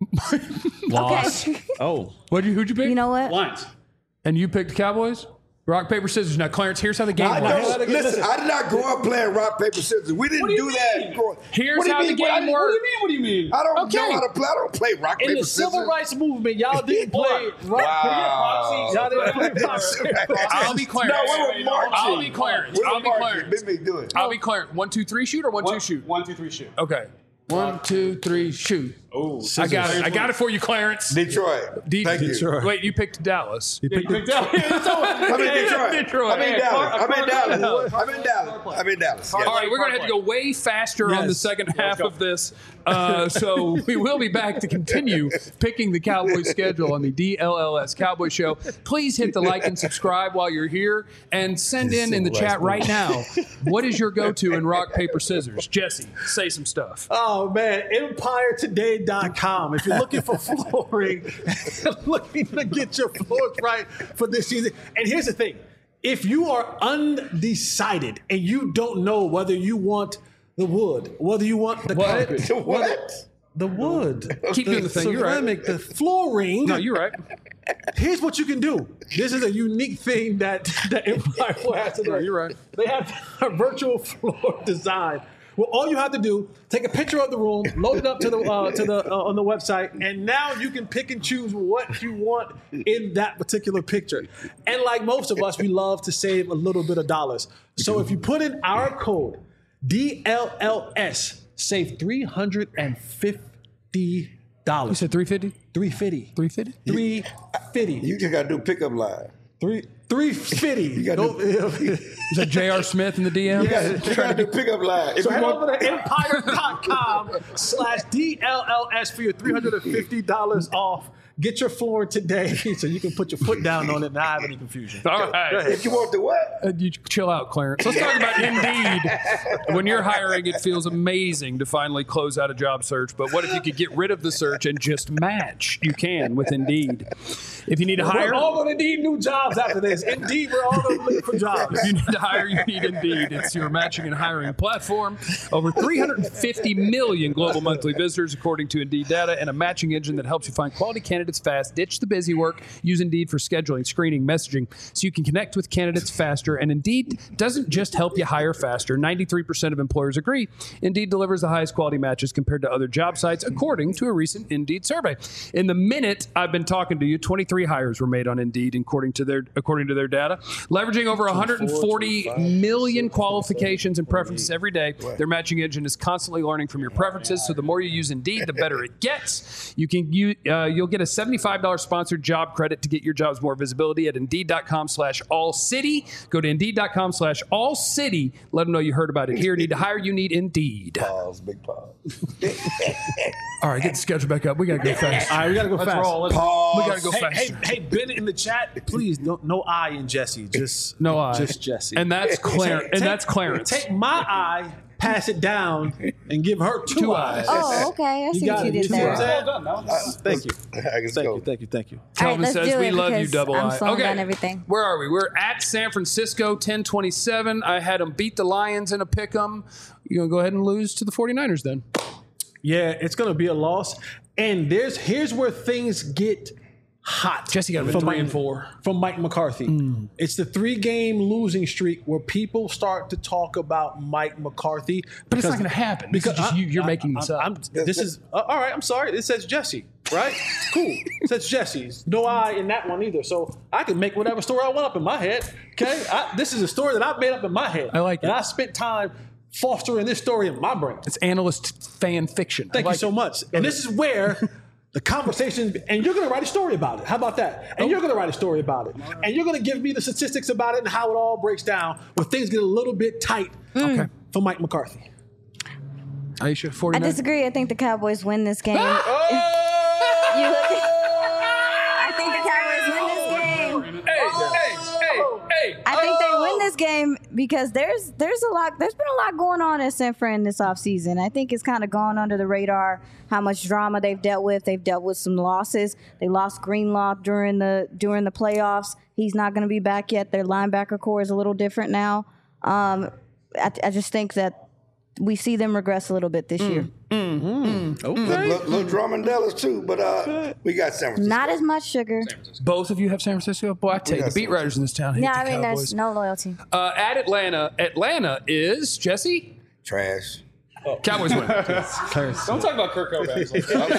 Okay. Oh, Who'd you pick? You know what? Lions. And you picked the Cowboys? Rock, paper, scissors. Now, Clarence, here's how the game I works. don't, listen, I did not grow up playing rock, paper, scissors. We didn't do that. Here's What do you how the mean? game works. What do you mean? I don't Okay. know how to play. I don't play rock, in paper, the scissors. civil rights movement, y'all didn't play rock. Y'all didn't play proxy. I'll be Clarence. No, we were marching. I'll be Clarence. We were I'll be marching. Clarence. Big do it. I'll be Clarence. 1, 2, 3 shoot or 1, 2 shoot? 1, 2, 3, shoot. Okay. 1, 2, 3 shoot. Oh, I got it. I got it for you, Clarence. Detroit. Thank you. Detroit. Wait, you picked Dallas. I'm in Detroit. Detroit. I'm in Dallas. I'm in Dallas. I'm in Dallas. I'm in Dallas. All right, we're going to have to go way faster on the second half of this. So we will be back to continue picking the Cowboys schedule on the DLLS Cowboy Show. Please hit the like and subscribe while you're here and send in the chat right now. What is your go-to in rock, paper, scissors? Jesse, say some stuff. Oh man, EmpireToday.com. If you're looking for flooring, looking to get your floors right for this season. And here's the thing: if you are undecided and you don't know whether you want the wood, whether you want the carpet, What? the wood, Keep doing the thing. You're right. ceramic, the flooring. No, you're right. Here's what you can do. This is a unique thing that Empire has today. No, you're right. They have a virtual floor design. Well, all you have to do, take a picture of the room, load it up to the on the website, and now you can pick and choose what you want in that particular picture. And like most of us, we love to save a little bit of dollars. So if you put in our code DLLS, save $350. You said 350? 350. 350? 350. You just got to do pickup line. 350. You got to do, Is that J.R. Smith in the DM? you got to do pickup line. If So you head want, over to empire.com/DLLS for your $350 off. Get your floor today so you can put your foot down on it and not have any confusion. All right. if you want the what? You chill out, Clarence. Let's talk about Indeed. When you're hiring, it feels amazing to finally close out a job search. But what if you could get rid of the search and just match? You can with Indeed. If you need to hire, We're all going to need new jobs after this. Indeed, we're all going to look for jobs. if you need to hire, you need Indeed. It's your matching and hiring platform. Over 350 million global monthly visitors, according to Indeed data, and a matching engine that helps you find quality candidates fast. Ditch the busy work. Use Indeed for scheduling, screening, messaging, so you can connect with candidates faster. And Indeed doesn't just help you hire faster. 93% of employers agree. Indeed delivers the highest quality matches compared to other job sites, according to a recent Indeed survey. In the minute I've been talking to you, 23 hires were made on Indeed, according to their data. Leveraging over 140 million qualifications and preferences every day, their matching engine is constantly learning from your preferences. So the more you use Indeed, the better it gets. You'll get a $75 sponsored job credit to get your jobs more visibility at Indeed.com/AllCity. Go to Indeed.com/AllCity. Let them know you heard about it here. Need to hire? You need Indeed. Pause, big pause. All right, get the schedule back up. We got to go fast. All right, we got to go fast. Pause. We got to go fast. Hey, Ben in the chat, please, no I in Jesse. Just No I. Just Jesse. And that's Clarence. And that's Clarence. Take my eye, pass it down, and give her two eyes. Oh, okay. I see got what you it. did You see what there. I'm All saying? Thank you. Let's go. Thank you. right, Calvin let's says do we it love you, because double I'm I. slowing Okay, down everything. where are we? We're at San Francisco, 10-27. I had them beat the Lions in a pick 'em. You gonna go ahead and lose to the 49ers then? Yeah, it's gonna be a loss. And here's where things get hot. Jesse got him at from 3 and Mike- 4. from Mike McCarthy. It's the 3-game losing streak where people start to talk about Mike McCarthy. But it's not going to happen. This is just you're making this up. This is all right. I'm sorry. It says Jesse, right? Cool. It says Jesse's. No I in that one either. So I can make whatever story I want up in my head. Okay. This is a story that I've made up in my head. I like it. And I spent time fostering this story in my brain. It's analyst fan fiction. Thank you so much. And this is where the conversation, and you're going to write a story about it. How about that? And you're going to write a story about it. And you're going to give me the statistics about it and how it all breaks down when things get a little bit tight for Mike McCarthy. Aisha, I 49. disagree. I think the Cowboys win this game. Oh! You look at- I think the Cowboys win this game. Hey. I think they win this game because there's been a lot going on at San Fran this offseason. I think it's kind of gone under the radar how much drama they've dealt with. They've dealt with some losses. They lost Greenlaw during the playoffs. He's not going to be back yet. Their linebacker core is a little different now. I just think that we see them regress a little bit this year. Okay. Little drum and Dallas too, but we got San Francisco. Not as much sugar. Both of you have San Francisco? Boy, I tell you, the beat writers in this town hate Yeah, the I mean, Cowboys. there's no loyalty. At Atlanta. Atlanta is, Jesse? Trash. Cowboys win. Don't talk about Kirk Cousins.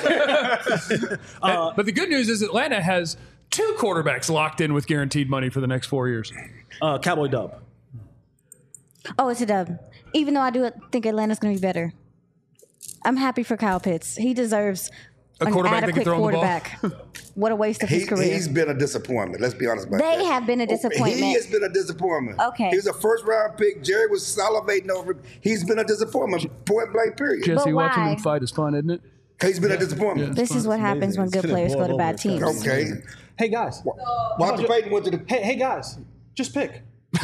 But the good news is Atlanta has 2 quarterbacks locked in with guaranteed money for the next 4 years. Cowboy dub. Oh, it's a dub. Even though I do think Atlanta's going to be better. I'm happy for Kyle Pitts. He deserves an quarterback that can adequate throw the ball. quarterback. What a waste of his career. He's been a disappointment. Let's be honest about that. They have been a disappointment. He has been a disappointment. Okay. He was a first-round pick. Jerry was salivating over him. He's been a disappointment, point blank, period. Jesse, But watching why? them fight is fun, isn't it? He's been a disappointment. This is what happens when good players go to bad teams. Okay. Hey, guys. Walter Payton went to the... Hey, guys. Just pick.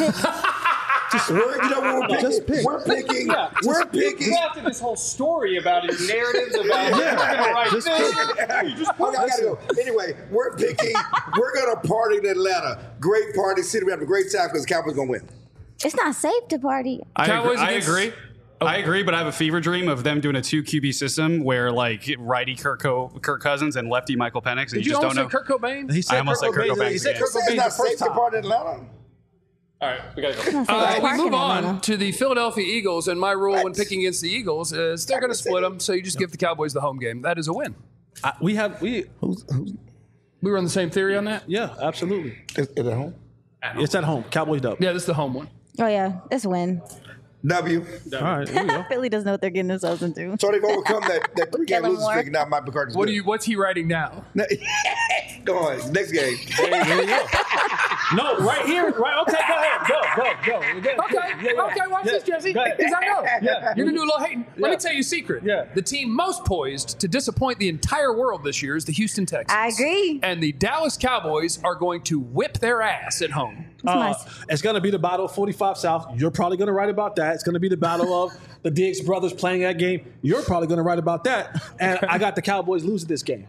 We're picking. We're picking. We're picking. You drafted this whole story about your narratives about we're going to write this. I gotta go. Anyway, we're picking. We're gonna party in Atlanta. Great party city. We have a great time because the Cowboys gonna win. It's not safe to party. Cowboys I against- agree. I agree, but I have a fever dream of them doing a 2 QB system where like righty Kirk Cousins and lefty Michael Penix. And Did you just almost don't say know. Kurt Cobain? He said I almost said Kurt Cobain. He said again. Kurt It's Cobain not the safe first to time. party in Atlanta. All right, we got to go. It's not safe to We park in move on Atlanta. to the Philadelphia Eagles, and my rule when What? picking against the Eagles is they're going to split them, so you just give the Cowboys the home game. That is a win. We We were on the same theory on that? yeah, absolutely. Is it at home? It's at home. Cowboys dub. Yeah, this is the home one. Oh, yeah. It's a win. W. All right, there you go. Philly doesn't know what they're getting themselves into. So they've overcome that 3-game Kellen losing Moore. streak. Now Mike McCarthy's What good. do you? What's he writing now? Go on. Next game. There you go. No, right here. Right. Okay, go ahead. Go. Okay, watch this, Jesse. Go ahead. Because I know. Yeah. You're going to do a little hating. Let me Yeah. tell you a secret. Yeah. The team most poised to disappoint the entire world this year is the Houston Texans. I agree. And the Dallas Cowboys are going to whip their ass at home. It's nice. It's going to be the battle of 45 South. You're probably going to write about that. It's going to be the battle of the Diggs brothers playing that game. You're probably going to write about that. And I got the Cowboys losing this game.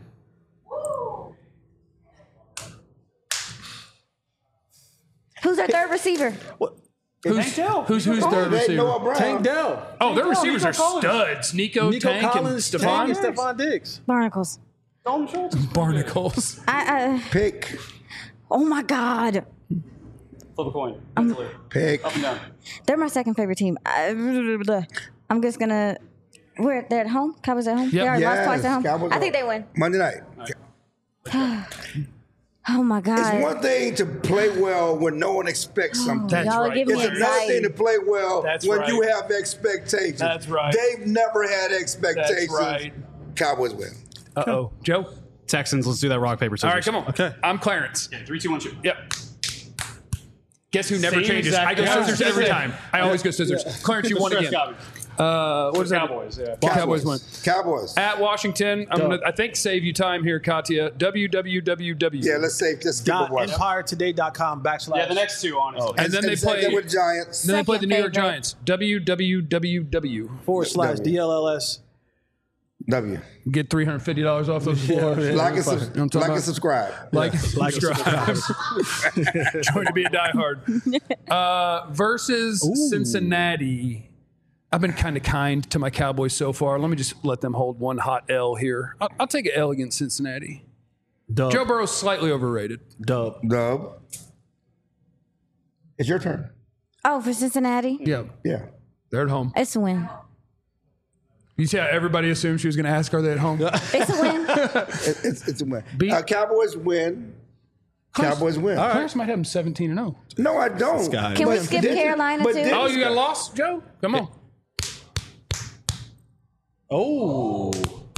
Who's their third receiver? Who's third They ain't receiver? Noah Brown. Tank Dell. Oh, their receivers Nico are Collins. studs. Nico Tank Collins, and Tank, and Stephon Stephon Diggs. Barnacles. Barnacles. Pick. Oh, my God. Flip a coin. Mentally. Pick. Up and down. They're my second favorite team. I'm just going to. They're at home? Cowboys at home? They already lost twice at home? Cowboys I think they win. Monday night. Oh, my God. It's one thing to play well when no one expects something. That's Y'all are right. giving It's me another thing anxiety. to play well That's when right. you have expectations. That's right. They've never had expectations. That's right. Cowboys win. Uh-oh. Joe? Texans, let's do that rock, paper, scissors. All right, come on. Okay. I'm Clarence. 3, 2, 1, shoot. Yep. Guess who never Same changes? exact I go thing. scissors every time. I always go scissors. Clarence, you won Stress again. Cowboys. What is that? Cowboys, yeah. Cowboys win. Cowboys. At Washington, I'm gonna, I think, save you time here, Katya. WWWW. Yeah, let's say just skip a watch. EmpireToday.com /. Yeah, the next two, honestly. And then they Second play. with Giants. Then they play the New York Second Giants. WWWW. /DLLS. W. Get $350 off those floors. Like and, I'm talking like and about- subscribe. Like and subscribe. Trying to be a diehard. Versus Cincinnati. I've been kind of kind to my Cowboys so far. Let me just let them hold one hot L here. I'll take an L against Cincinnati. Dub. Joe Burrow's slightly overrated. Dub. Dub. It's your turn. Oh, for Cincinnati? Yeah, Yeah. they're at home. It's a win. You see how everybody assumed she was going to ask, are they at home? It's a win. It's a win. Beat- Cowboys win. Cowboys win. Clarence might have them 17-0. No, I don't. guy. Can we But skip didn't- Carolina but too? didn't- Oh, you got lost, Joe? Come on. Oh.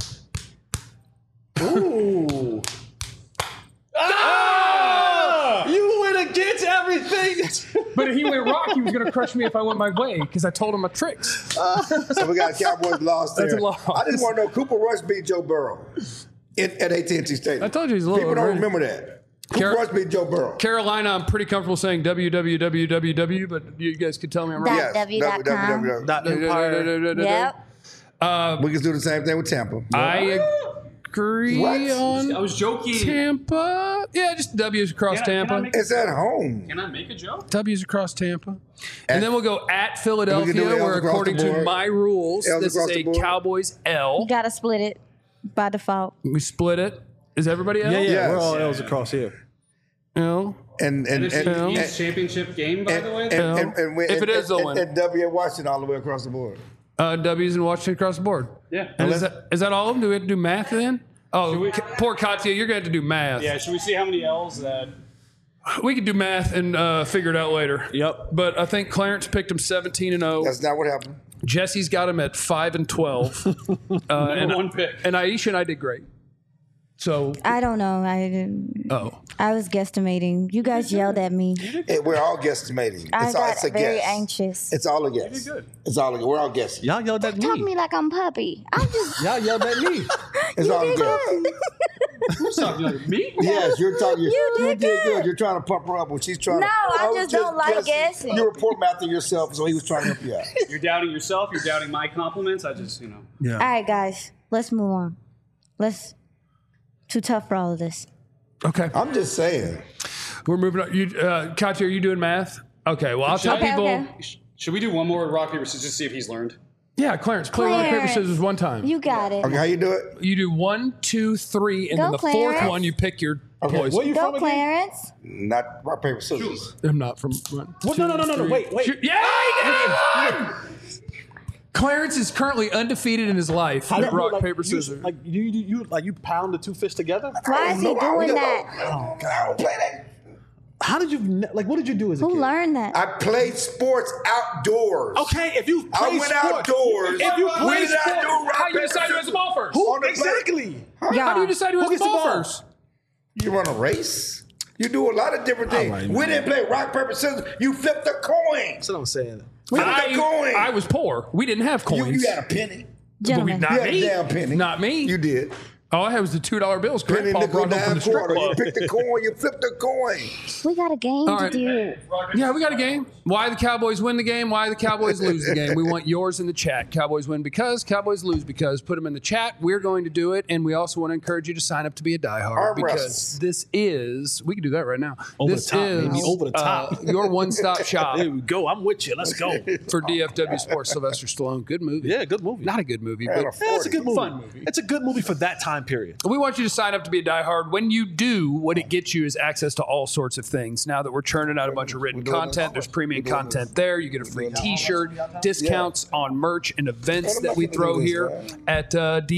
Ooh. You went against everything. But if he went rock, he was going to crush me if I went my way because I told him my tricks. So we got Cowboys lost there. That's a loss. I just want to know, Cooper Rush beat Joe Burrow at AT&T Stadium. I told you he's a little People don't overrated. remember that. Cooper Rush beat Joe Burrow. Carolina, I'm pretty comfortable saying www, but you guys could tell me I'm wrong. That- Yes. W.com. www. Yep. We can do the same thing with Tampa. I agree What? on I was joking. Tampa. Yeah, just W's across Can I Tampa. make- It's at home. Can I make a joke? W's across Tampa. And then we'll go at Philadelphia, We can do L's where across according the to board. my rules, L's this is across the a board. Cowboys L. You gotta split it by default. We split it. Is everybody L? Yeah, Yes. we're all L's across here. L. And And it's and, the and, East championship game, by the way. If it is, they'll win. And W at Washington all the way across the board. W's in Washington across the board. Yeah. And is that all of them? Do we have to do math then? Oh, we- poor Katya, you're going to have to do math. Yeah. Should we see how many L's that? We could do math and figure it out later. Yep. But I think Clarence picked him 17-0. That's not what happened. Jesse's got him at 5-12. and one pick. And Aisha and I did great. So, I don't know. I was guesstimating. You guys yelled at me. We're all guestimating. I It's got a very guess. anxious. It's all a guess. good. It's all a guess. We're all guessing. Y'all yelled at Talk to me. me like I'm puppy. I'm just. Y'all yelled at me. It's all a did guess. good. Who's talking like me? Yes, you're talking. You did did good. good. You're trying to pump her up when she's trying. No, to, I was just don't like guessing. You were poor mouthing yourself, so he was trying to help you out. You're doubting yourself. You're doubting my compliments. I just, All right, guys. Let's move on. Too tough for all of this. okay. I'm just saying. We're moving on. Katya, are you doing math? Okay. Well, I'll tell Okay, people. okay. Should we do one more rock paper scissors to see if he's learned? Yeah, Clarence, play rock, paper, Clarence. scissors one time. You got it. Okay, how you do it? You do 1, 2, 3, and Go, then the fourth Clarence. one you pick your Okay, poison. Where you Go, from again? Clarence. Not rock paper scissors. I'm not from. One, What? two, No. three. Wait. Yeah, he did! Clarence is currently undefeated in his life How at do you, rock, like, paper, you- scissors. Like you pound the two fists together? Why is he doing that? Oh, God, I don't play that. How did you what did you do as a Who kid? learned that? I played sports outdoors. Okay, if you I play went sports, outdoors. If you When play did I sports, do rock, How you paper, decide who has the ball first? who on the play. exactly? How do you decide who has the gets the ball ball? first? You run a race. You do a lot of different things. right, We man. didn't play rock, paper, scissors. You flip the coin. That's what I'm saying. Flip the coin. I was poor. We didn't have you, coins. you had a penny. Gentlemen. not You had me. a damn penny. Not me. You did. All I had was the $2 bills. Penny, Grandpa nickel, brought them from dime, the strip quarter. You club. pick the coin. You flip the coin. We got a game All to right. do. Yeah, we got a game. Why the Cowboys win the game, why the Cowboys lose the game. We want yours in the chat. Cowboys win because, Cowboys lose because. Put them in the chat. We're going to do it. And we also want to encourage you to sign up to be a diehard Arm because wrestles. this is, we can do that right now. Over this the top, is baby. Over the top. your one-stop shop There we go. I'm with you. Let's go. for DFW Sports. Sylvester Stallone. Good movie. Yeah, good movie. Not a good movie, Man, but Yeah, it's a good movie. Fun movie. It's a good movie for that time period. we want you to sign up to be a diehard. When you do, what it gets you is access to all sorts of things. Now that we're churning out a bunch of written content, there's premium content there. You get a free T-shirt, discounts on merch and events that we throw here at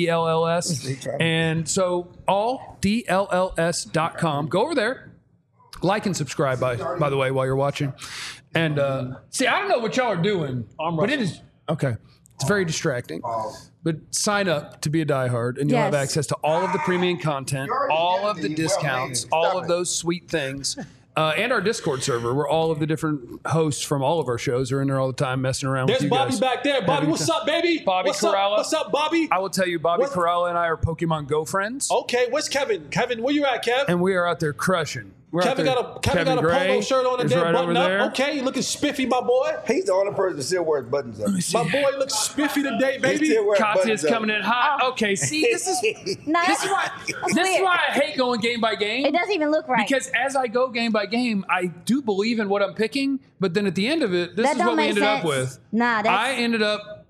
DLLS. And so all DLLS.com. Go over there. Like and subscribe, by the way, while you're watching. And see, I don't know what y'all are doing, but it is okay. It's very distracting. But sign up to be a diehard, and you'll have Yes. access to all of the premium content, all of the discounts, all of those sweet things, and our Discord server, where all of the different hosts from all of our shows are in there all the time, messing around There's with you Bobby guys. back there. Bobby, Having what's time. up, baby? Bobby what's Corralla. Up? What's up, Bobby? I will tell you, Bobby What- Corralla and I are Pokemon Go friends, Okay, where's Kevin? Kevin, where you at, Kev? and we are out there crushing. We're out Kevin there- got a Gray polo shirt on and is then right button over up. there. Okay, you looking spiffy, my boy. He's the only person that still wears buttons up. My boy looks spiffy today, He baby. still wears Katya's buttons up. coming in hot. Okay, see, this is No, that's this is why I hate going game by game. It doesn't even look right. Because as I go game by game, I do believe in what I'm picking, but then at the end of it, this That is don't what we make ended up sense. with. Nah, that's- I ended up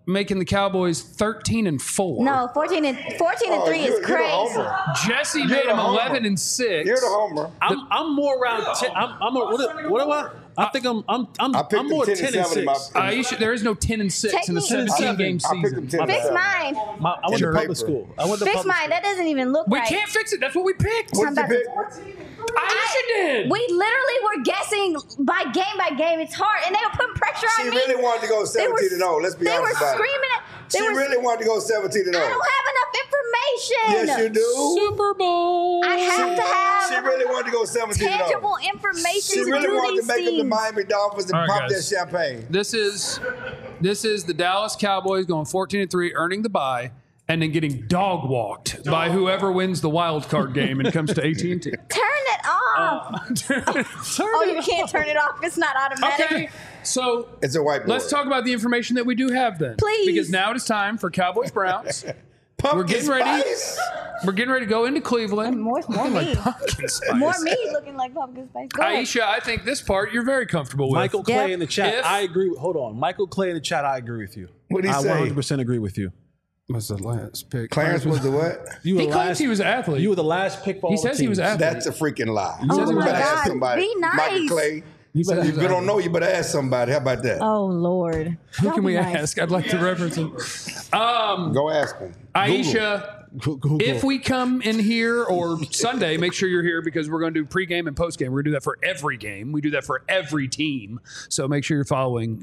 making the Cowboys 13-4. No, 14 and 3 is You're the crazy. homer. Jesse You're made the him homer. 11-6. You're the homer. I'm more around 10. What am I? I think I'm more 10 and 6. There is no 10-6 in a Take me- 17-game I picked them season. 10 Fix and 7. mine. I went to Your public paper. school. I went to Fix public mine. That doesn't even look We right. can't fix it. That's what we picked. What did you pick? Aisha did. We literally were guessing by game. It's hard, and they were putting pressure on She me. really wanted to go 17-0. Let's be They were honest about it. screaming at. She really wanted to go 17-0. I don't have enough information. Yes, you do. Super Bowl. I have to She have really wanted to go 17-0. tangible information She to really do wanted these to make them the things. Miami Dolphins and All right, pop guys. their champagne. This is the Dallas Cowboys going 14-3, earning the bye, and then getting dog walked by whoever wins the wild card game and comes to AT&T. Turn it off. Oh, you can't turn it off. It's not automatic. Okay, so It's a whiteboard. let's talk about the information that we do have then. Please. Because now it is time for Cowboys Browns. Pumpkin We're getting ready. spice. We're getting ready to go into Cleveland. More me. Pumpkin spice. More me looking like pumpkin spice. Go ahead. Aisha, I think this part you're very comfortable with. Michael Clay Yep. in the chat. If- I agree. Hold on. Michael Clay in the chat. I agree with you. What'd he I say? 100% agree with you. was the last pick. Clarence was the what? You were He the claims last, he was an athlete. You were the last pick for all He the says he was teams. an athlete. That's a freaking lie. says he You was better an ask athlete. somebody. Be nice. Michael Clay. He says he If was you an don't know, you better ask somebody. How about that? Oh Lord. Who Y'all can be we nice. ask? I'd like to reference him. Go ask him. Aisha, Google. if we come in here or Sunday, make sure you're here because we're going to do pregame and postgame. We're going to do that for every game. We do that for every team. So make sure you're following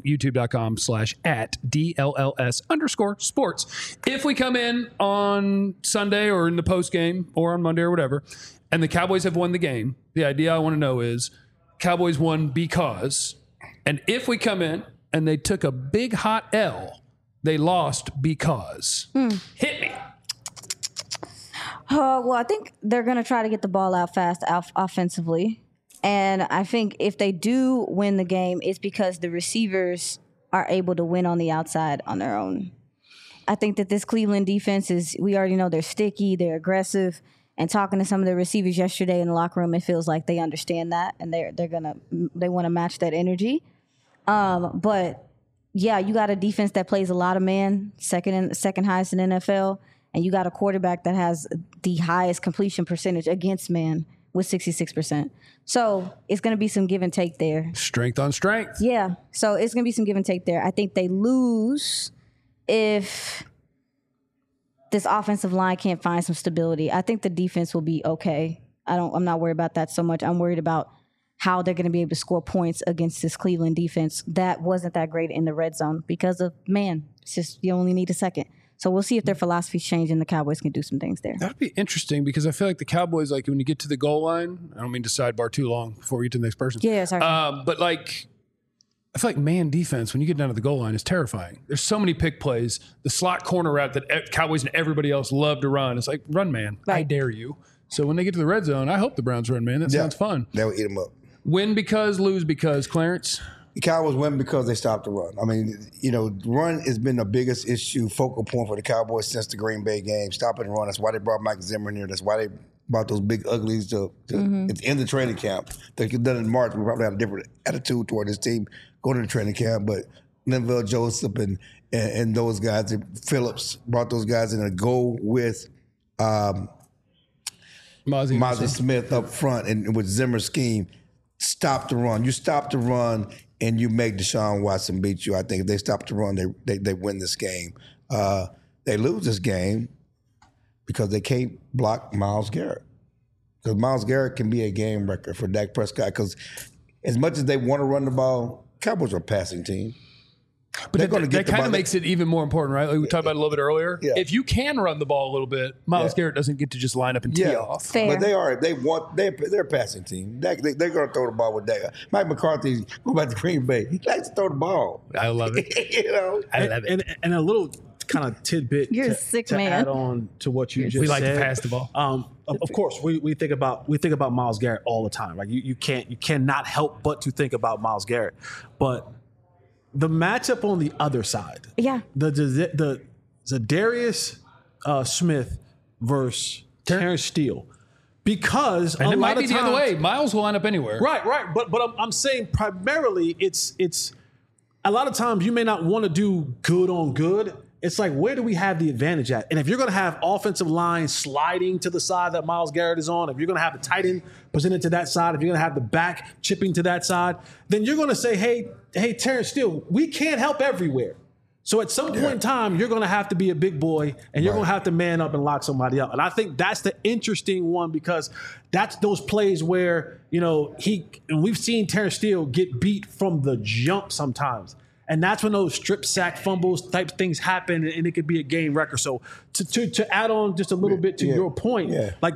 youtube.com/@DLLS_sports. If we come in on Sunday or in the postgame or on Monday or whatever, and the Cowboys have won the game, the idea I want to know is Cowboys won because, and if we come in and they took a big hot L, they lost because. Hit me. Well, I think they're going to try to get the ball out fast offensively. And I think if they do win the game, it's because the receivers are able to win on the outside on their own. I think that this Cleveland defense we already know they're sticky, they're aggressive. And talking to some of the receivers yesterday in the locker room, it feels like they understand that and they want to match that energy. But yeah, you got a defense that plays a lot of man, second highest in NFL, and you got a quarterback that has the highest completion percentage against man with 66%. So it's going to be some give and take there. Strength on strength. Yeah, so it's going to be some give and take there. I think they lose if this offensive line can't find some stability. I think the defense will be okay. I'm not worried about that so much. I'm worried about how they're going to be able to score points against this Cleveland defense that wasn't that great in the red zone because of man. It's just you only need a second. So we'll see if their philosophies change and the Cowboys can do some things there. That'd be interesting because I feel like the Cowboys, like when you get to the goal line, I don't mean to sidebar too long before we get to the next person. Yeah, sorry. But like, I feel like man defense, when you get down to the goal line, is terrifying. There's so many pick plays. The slot corner route that Cowboys and everybody else love to run. It's like, run man. I Right. dare you. So when they get to the red zone, I hope the Browns run man. That sounds fun. They'll eat them up. Win because, lose because, Clarence. The Cowboys win because they stopped the run. I mean, run has been the biggest issue, focal point for the Cowboys since the Green Bay game. Stopping the run. That's why they brought Mike Zimmer in here. That's why they brought those big uglies to at the end of training camp. They could have done it in March. We probably had a different attitude toward this team going to the training camp. But Linval Joseph and those guys, Phillips, brought those guys in to go with Mozzie Smith up front and with Zimmer's scheme. Stop the run. You stop the run and you make Deshaun Watson beat you. I think if they stop the run, they win this game. They lose this game because they can't block Myles Garrett. Because Myles Garrett can be a game wrecker for Dak Prescott. Because as much as they want to run the ball, Cowboys are a passing team. But They're gonna get that kind the of ball. makes it even more important, right? Like we talked about it a little bit earlier. Yeah. If you can run the ball a little bit, Myles Garrett doesn't get to just line up and tee off. Fair. But they're a passing team. They're going to throw the ball with Dak. Mike McCarthy, go back to Green Bay. He likes to throw the ball. I love it. I love it. And a little kind of tidbit You're a to, sick to man. add on to what you just We like to said. pass the ball. Of course, we think about Myles Garrett all the time. Like you cannot help but to think about Myles Garrett. But the matchup on the other side, Yeah. the Zadarius Smith versus Terrence Steele, because And a it lot might be of the other times- way. Miles will line up anywhere. Right. But I'm saying primarily it's a lot of times you may not want to do good on good. It's like, where do we have the advantage at? And if you're going to have offensive line sliding to the side that Myles Garrett is on, if you're going to have the tight end presented to that side, if you're going to have the back chipping to that side, then you're going to say, hey, Terrence Steele, we can't help everywhere. So at some point in time, you're going to have to be a big boy and you're going to have to man up and lock somebody up. And I think that's the interesting one because that's those plays where, and we've seen Terrence Steele get beat from the jump sometimes. And that's when those strip sack fumbles type things happen and it could be a game record. So to add on just a little bit to your point,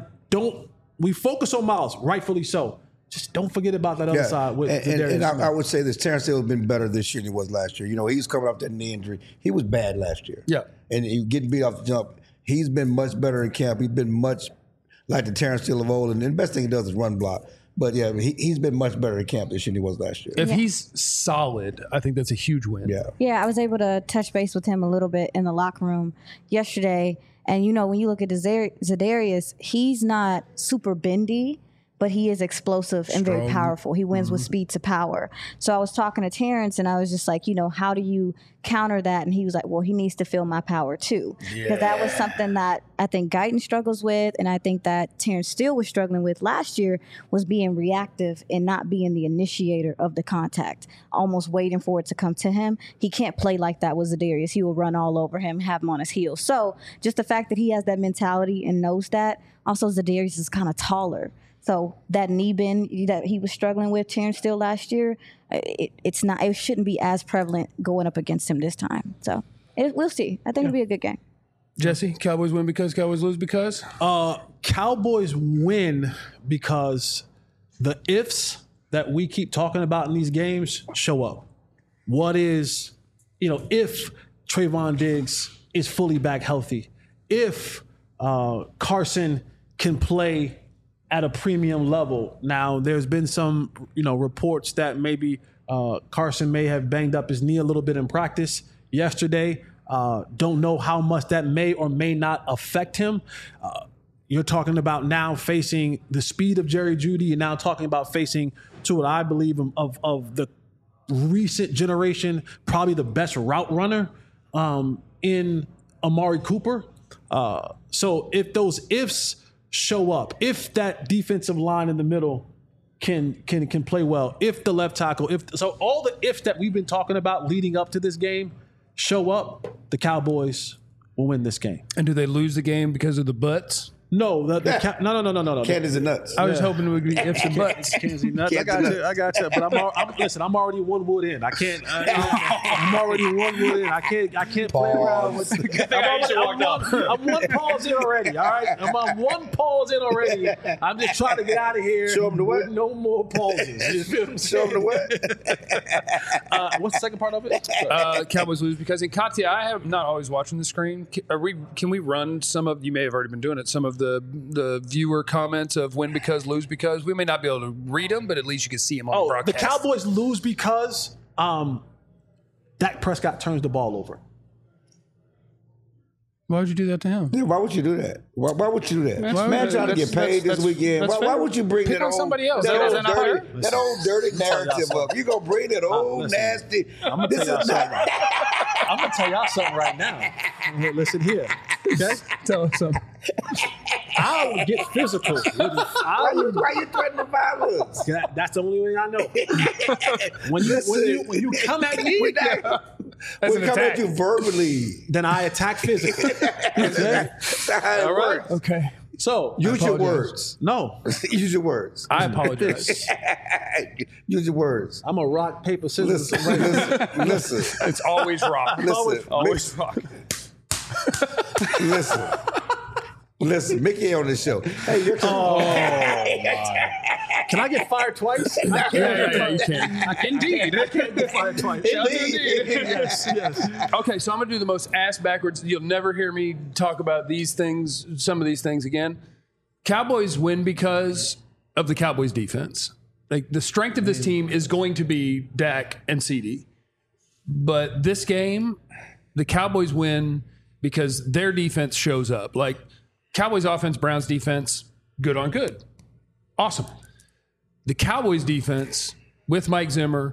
we focus on Myles, rightfully so. Just don't forget about that other side. And I would say this, Terrence Hill has been better this year than he was last year. He was coming off that knee injury. He was bad last year. Yeah. And he getting beat off the jump. He's been much better in camp. He's been much like the Terrence Hill of old. And the best thing he does is run block. But, he's been much better in camp this year than he was last year. If he's solid, I think that's a huge win. Yeah, I was able to touch base with him a little bit in the locker room yesterday. And, when you look at Za'Darius, he's not super bendy, but he is explosive and very powerful. He wins with speed to power. So I was talking to Terrence, and I was just like, how do you counter that? And he was like, well, he needs to feel my power too. Because that was something that I think Guyton struggles with, and I think that Terrence Steele was struggling with last year, was being reactive and not being the initiator of the contact, almost waiting for it to come to him. He can't play like that with Za'Darius. He will run all over him, have him on his heels. So just the fact that he has that mentality and knows that. Also, Za'Darius is kind of taller. So that knee bend that he was struggling with, Terrence Steele last year, it shouldn't be as prevalent going up against him this time. So we'll see. I think it'll be a good game. Jesse, Cowboys win because Cowboys lose because? Cowboys win because the ifs that we keep talking about in these games show up. What is, if Trayvon Diggs is fully back healthy, if Carson can play at a premium level. Now, there's been some, reports that maybe Carson may have banged up his knee a little bit in practice yesterday. Don't know how much that may or may not affect him. You're talking about now facing the speed of Jerry Jeudy. You're now talking about facing, to what I believe of the recent generation, probably the best route runner in Amari Cooper. So if those ifs show up, if that defensive line in the middle can play well, if the left tackle, so all the ifs that we've been talking about leading up to this game show up, the Cowboys will win this game. And do they lose the game because of the butts? No, no. Candies and nuts. I was hoping it would be ifs and buts. Candies and nuts. I got you. But listen, I'm already 1 wood in. I can't. I'm already 1 wood in. I can't play around with. I'm 1 pause in already. All right, I'm on 1 pause in already. I'm just trying to get out of here. Show them the what? No more pauses. You feel what I'm saying? Show them the what? What's the second part of it? Cowboys lose because in Katya, I have not always watching the screen. Can we run some of? You may have already been doing it. Some of the viewer comments of win because, lose because. We may not be able to read them, but at least you can see them on the broadcast. The Cowboys lose because Dak Prescott turns the ball over. Why would you do that to him? Yeah, why would you do that? Why would you do that? Man trying to get paid this weekend. Why would you bring that somebody else? That old dirty narrative up? You gonna bring that old nasty? I'm gonna tell y'all something right now. Listen here, okay? Tell us something. I would get physical. Why you threatening violence? That's the only way I know. When you come at me, we come at you verbally. Then I attack physically. Okay? All right. Okay. So use your words. No, use your words. I apologize. Use your words. I'm a rock paper scissors. Listen. It's always rock. Always rock. Listen, Mickey on this show. Hey, you're Can I get fired twice? I can't. Yeah, you can. Indeed. I can't get fired twice. Indeed. Yes. Okay, so I'm going to do the most ass backwards. You'll never hear me talk about these things, some of these things again. Cowboys win because of the Cowboys defense. Like, the strength of this team is going to be Dak and CD. But this game, the Cowboys win because their defense shows up. Like, Cowboys offense, Browns defense, good on good. Awesome. The Cowboys defense with Mike Zimmer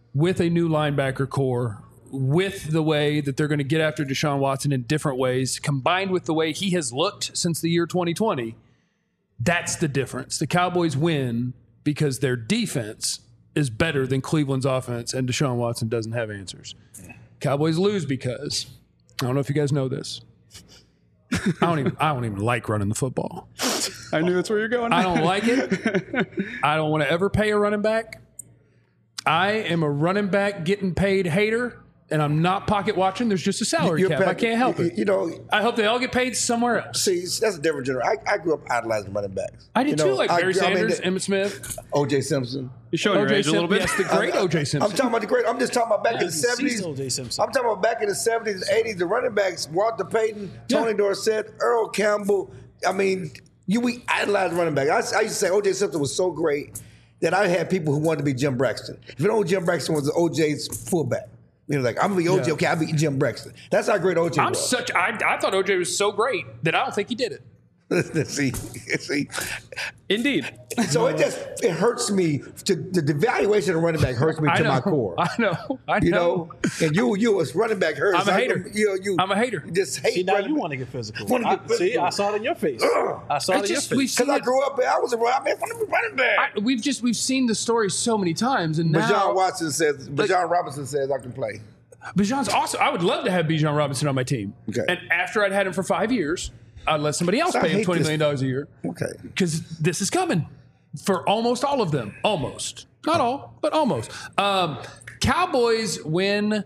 with a new linebacker core, with the way that they're going to get after Deshaun Watson in different ways, combined with the way he has looked since the year 2020, that's the difference. The Cowboys win because their defense is better than Cleveland's offense, and Deshaun Watson doesn't have answers. Cowboys lose because, I don't know if you guys know this, I don't even like running the football. I knew that's where you're going. I don't like it. I don't want to ever pay a running back. I am a running back getting paid hater, and I'm not pocket watching. There's just a salary cap. I can't help it. You know, I hope they all get paid somewhere else. see, that's a different generation. I grew up idolizing running backs. I did You too, know, like Barry Sanders, Emmitt Smith, O.J. Simpson. You're showing your O.J. age a little bit. Yes, the great O.J. Simpson. I'm talking about the great. I'm just talking about back in the deceased 70s. O.J. Simpson. I'm talking about back in the 70s and 80s. The running backs: Walter Payton, Tony Dorsett, Earl Campbell. I mean, we idolized running back. I used to say O.J. Simpson was so great that I had people who wanted to be Jim Braxton. If you know Jim Braxton was O.J.'s fullback. You know, like, I'm going to be O.J. Yeah. Okay, I'll be Jim Braxton. That's how great O.J. was. I thought O.J. was so great that I don't think he did it. see. Indeed. So it hurts me. The devaluation of running back hurts me to my core. I know. You know, and you as running back hurts. I'm a hater. I'm a hater. You just hate. See, now running you back. want to get physical. Wanna get See, physical. I saw it in your face. I saw it in your face. We've seen Because I it. grew up, I was a running back. We've seen the story so many times, and Bijan now Robinson says I can play. Bijan's awesome. I would love to have Bijan Robinson on my team. Okay. And after I'd had him for 5 years, I'd let somebody else I pay him hate $20 this. million a year. Okay. Because this is coming for almost all of them. Almost. Not all, but almost. Cowboys win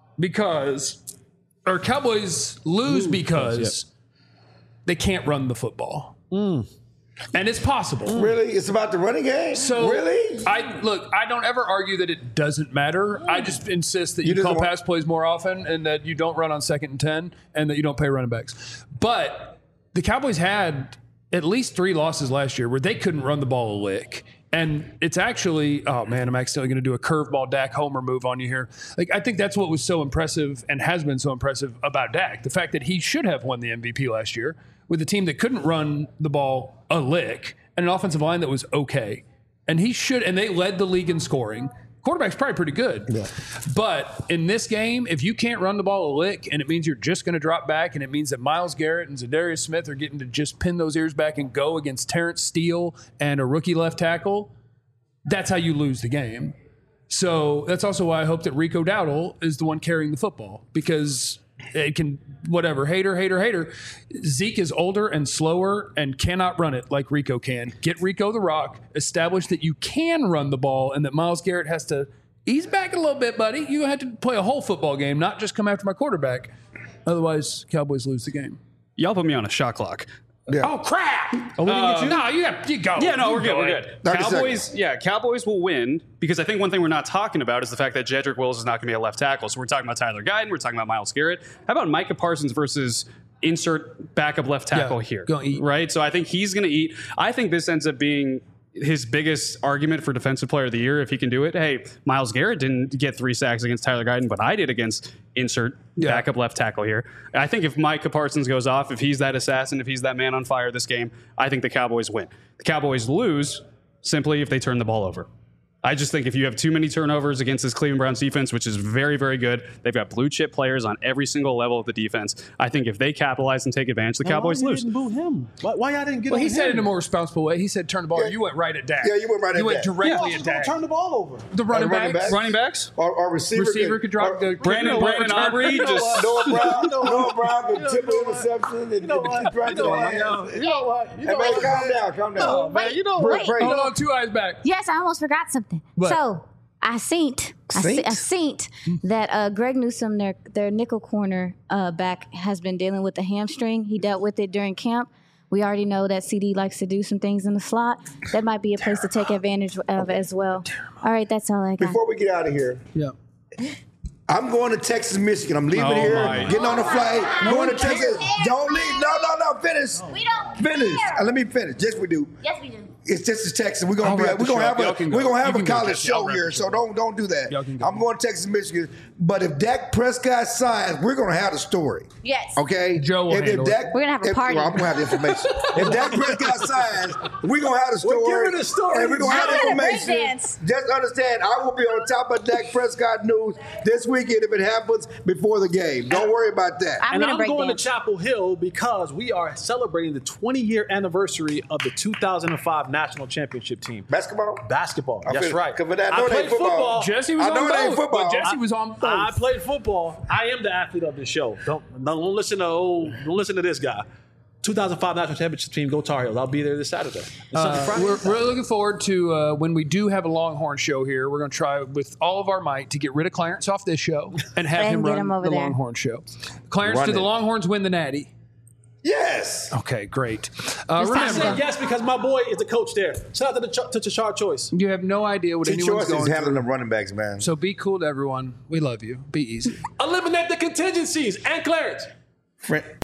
Cowboys lose because they can't run the football. And it's possible. Really? It's about the running game? So really? I don't ever argue that it doesn't matter. I just insist that you just call want- pass plays more often and that you don't run on 2nd and 10 and that you don't pay running backs. But the Cowboys had at least 3 losses last year where they couldn't run the ball a lick. And it's actually, oh man, I'm accidentally going to do a curveball Dak Homer move on you here. Like, I think that's what was so impressive and has been so impressive about Dak. The fact that he should have won the MVP last year with a team that couldn't run the ball a lick and an offensive line that was okay. And they led the league in scoring. Quarterback's probably pretty good. Yeah. But in this game, if you can't run the ball a lick and it means you're just going to drop back and it means that Myles Garrett and Zadarius Smith are getting to just pin those ears back and go against Terrence Steele and a rookie left tackle, that's how you lose the game. So that's also why I hope that Rico Dowdle is the one carrying the football because it can, whatever, hater. Zeke is older and slower and cannot run it like Rico can. Get Rico the rock, establish that you can run the ball and that Myles Garrett has to ease back a little bit, buddy. You have to play a whole football game, not just come after my quarterback. Otherwise, Cowboys lose the game. Y'all put me on a shot clock. Yeah. Oh, crap. we didn't get you? No, you go. Yeah, no, You we're good. go We're ahead. good. 30 Cowboys, Cowboys will win because I think one thing we're not talking about is the fact that Jedrick Wills is not going to be a left tackle. So we're talking about Tyler Guyton. We're talking about Myles Garrett. How about Micah Parsons versus insert backup left tackle here? Gonna eat. Right? So I think he's going to eat. I think this ends up being his biggest argument for Defensive Player of the Year if he can do it. Hey, Myles Garrett didn't get 3 sacks against Tyler Guyton, but I did against insert backup left tackle here. I think if Micah Parsons goes off, if he's that assassin, if he's that man on fire this game, I think the Cowboys win. The Cowboys lose simply if they turn the ball over. I just think if you have too many turnovers against this Cleveland Browns defense, which is very, very good, they've got blue chip players on every single level of the defense. I think if they capitalize and take advantage, the Cowboys Why lose. you didn't boo him? Why y'all didn't get Well, on he said it him? in a more responsible way. He said turn the ball. You went right at Dak. Yeah, you went right at You went Dak. directly Yeah, at just gonna Dak. turn the ball over. The running running backs. back. Running backs? Our receiver Could drop the Brandon Aubrey just Noah Brown can tip an interception and keep right there. You know what? Hey, man, calm down. Oh, man, you know what? Pray. Hold on, 2 eyes back. Yes, I almost forgot something. What? So I seen that Greg Newsome, their nickel corner back, has been dealing with the hamstring. He dealt with it during camp. We already know that CD likes to do some things in the slot. That might be a place to take advantage of as well. All right, that's all I got. Before we get out of here, Yeah. I'm going to Texas, Michigan. I'm leaving Oh, here, my. getting on the flight, going to Texas. Don't leave. No, finish. We don't Finish. care. Let me finish. Yes, we do. Yes, we do. It's just Texas. We're gonna wrap the show up. Y'all can go. we're gonna have You a can go, college Jesse. I'll show wrap here, the so show don't do that. Y'all can go. I'm going to Texas, Michigan. But if Dak Prescott signs, we're gonna have the story. Yes. Okay. Joe will handle it. We're gonna have a party. Well, I'm gonna have the information. If Dak Prescott signs, we're gonna have the story. We're giving the story. And we're gonna have I'm the gonna information. breakdance. Just understand, I will be on top of Dak Prescott news this weekend if it happens before the game. Don't worry about that. I'm And gonna I'm break going dance. to Chapel Hill because we are celebrating the 20-year anniversary of the 2005 national championship team. Basketball? Basketball. I That's feel- right. 'cause I know it ain't played football. Jesse was I know on it ain't both. football. But Jesse was on both. I played football. I am the athlete of this show. Don't listen to this guy. 2005 national championship team. Go Tar Heels. I'll be there this Saturday. We're really looking forward to when we do have a Longhorn show here. We're going to try with all of our might to get rid of Clarence off this show and have And him get run him over the there. Longhorn show. Clarence, Run do the it. Longhorns win the Natty? Yes. Okay, great. I Remember, said yes because my boy is the coach there. Shout out to Tashard Choice. you have no idea what Two anyone's choices going through. handling the running backs, man. So be cool to everyone. We love you. Be easy. Eliminate the contingencies and Clarence. Friend.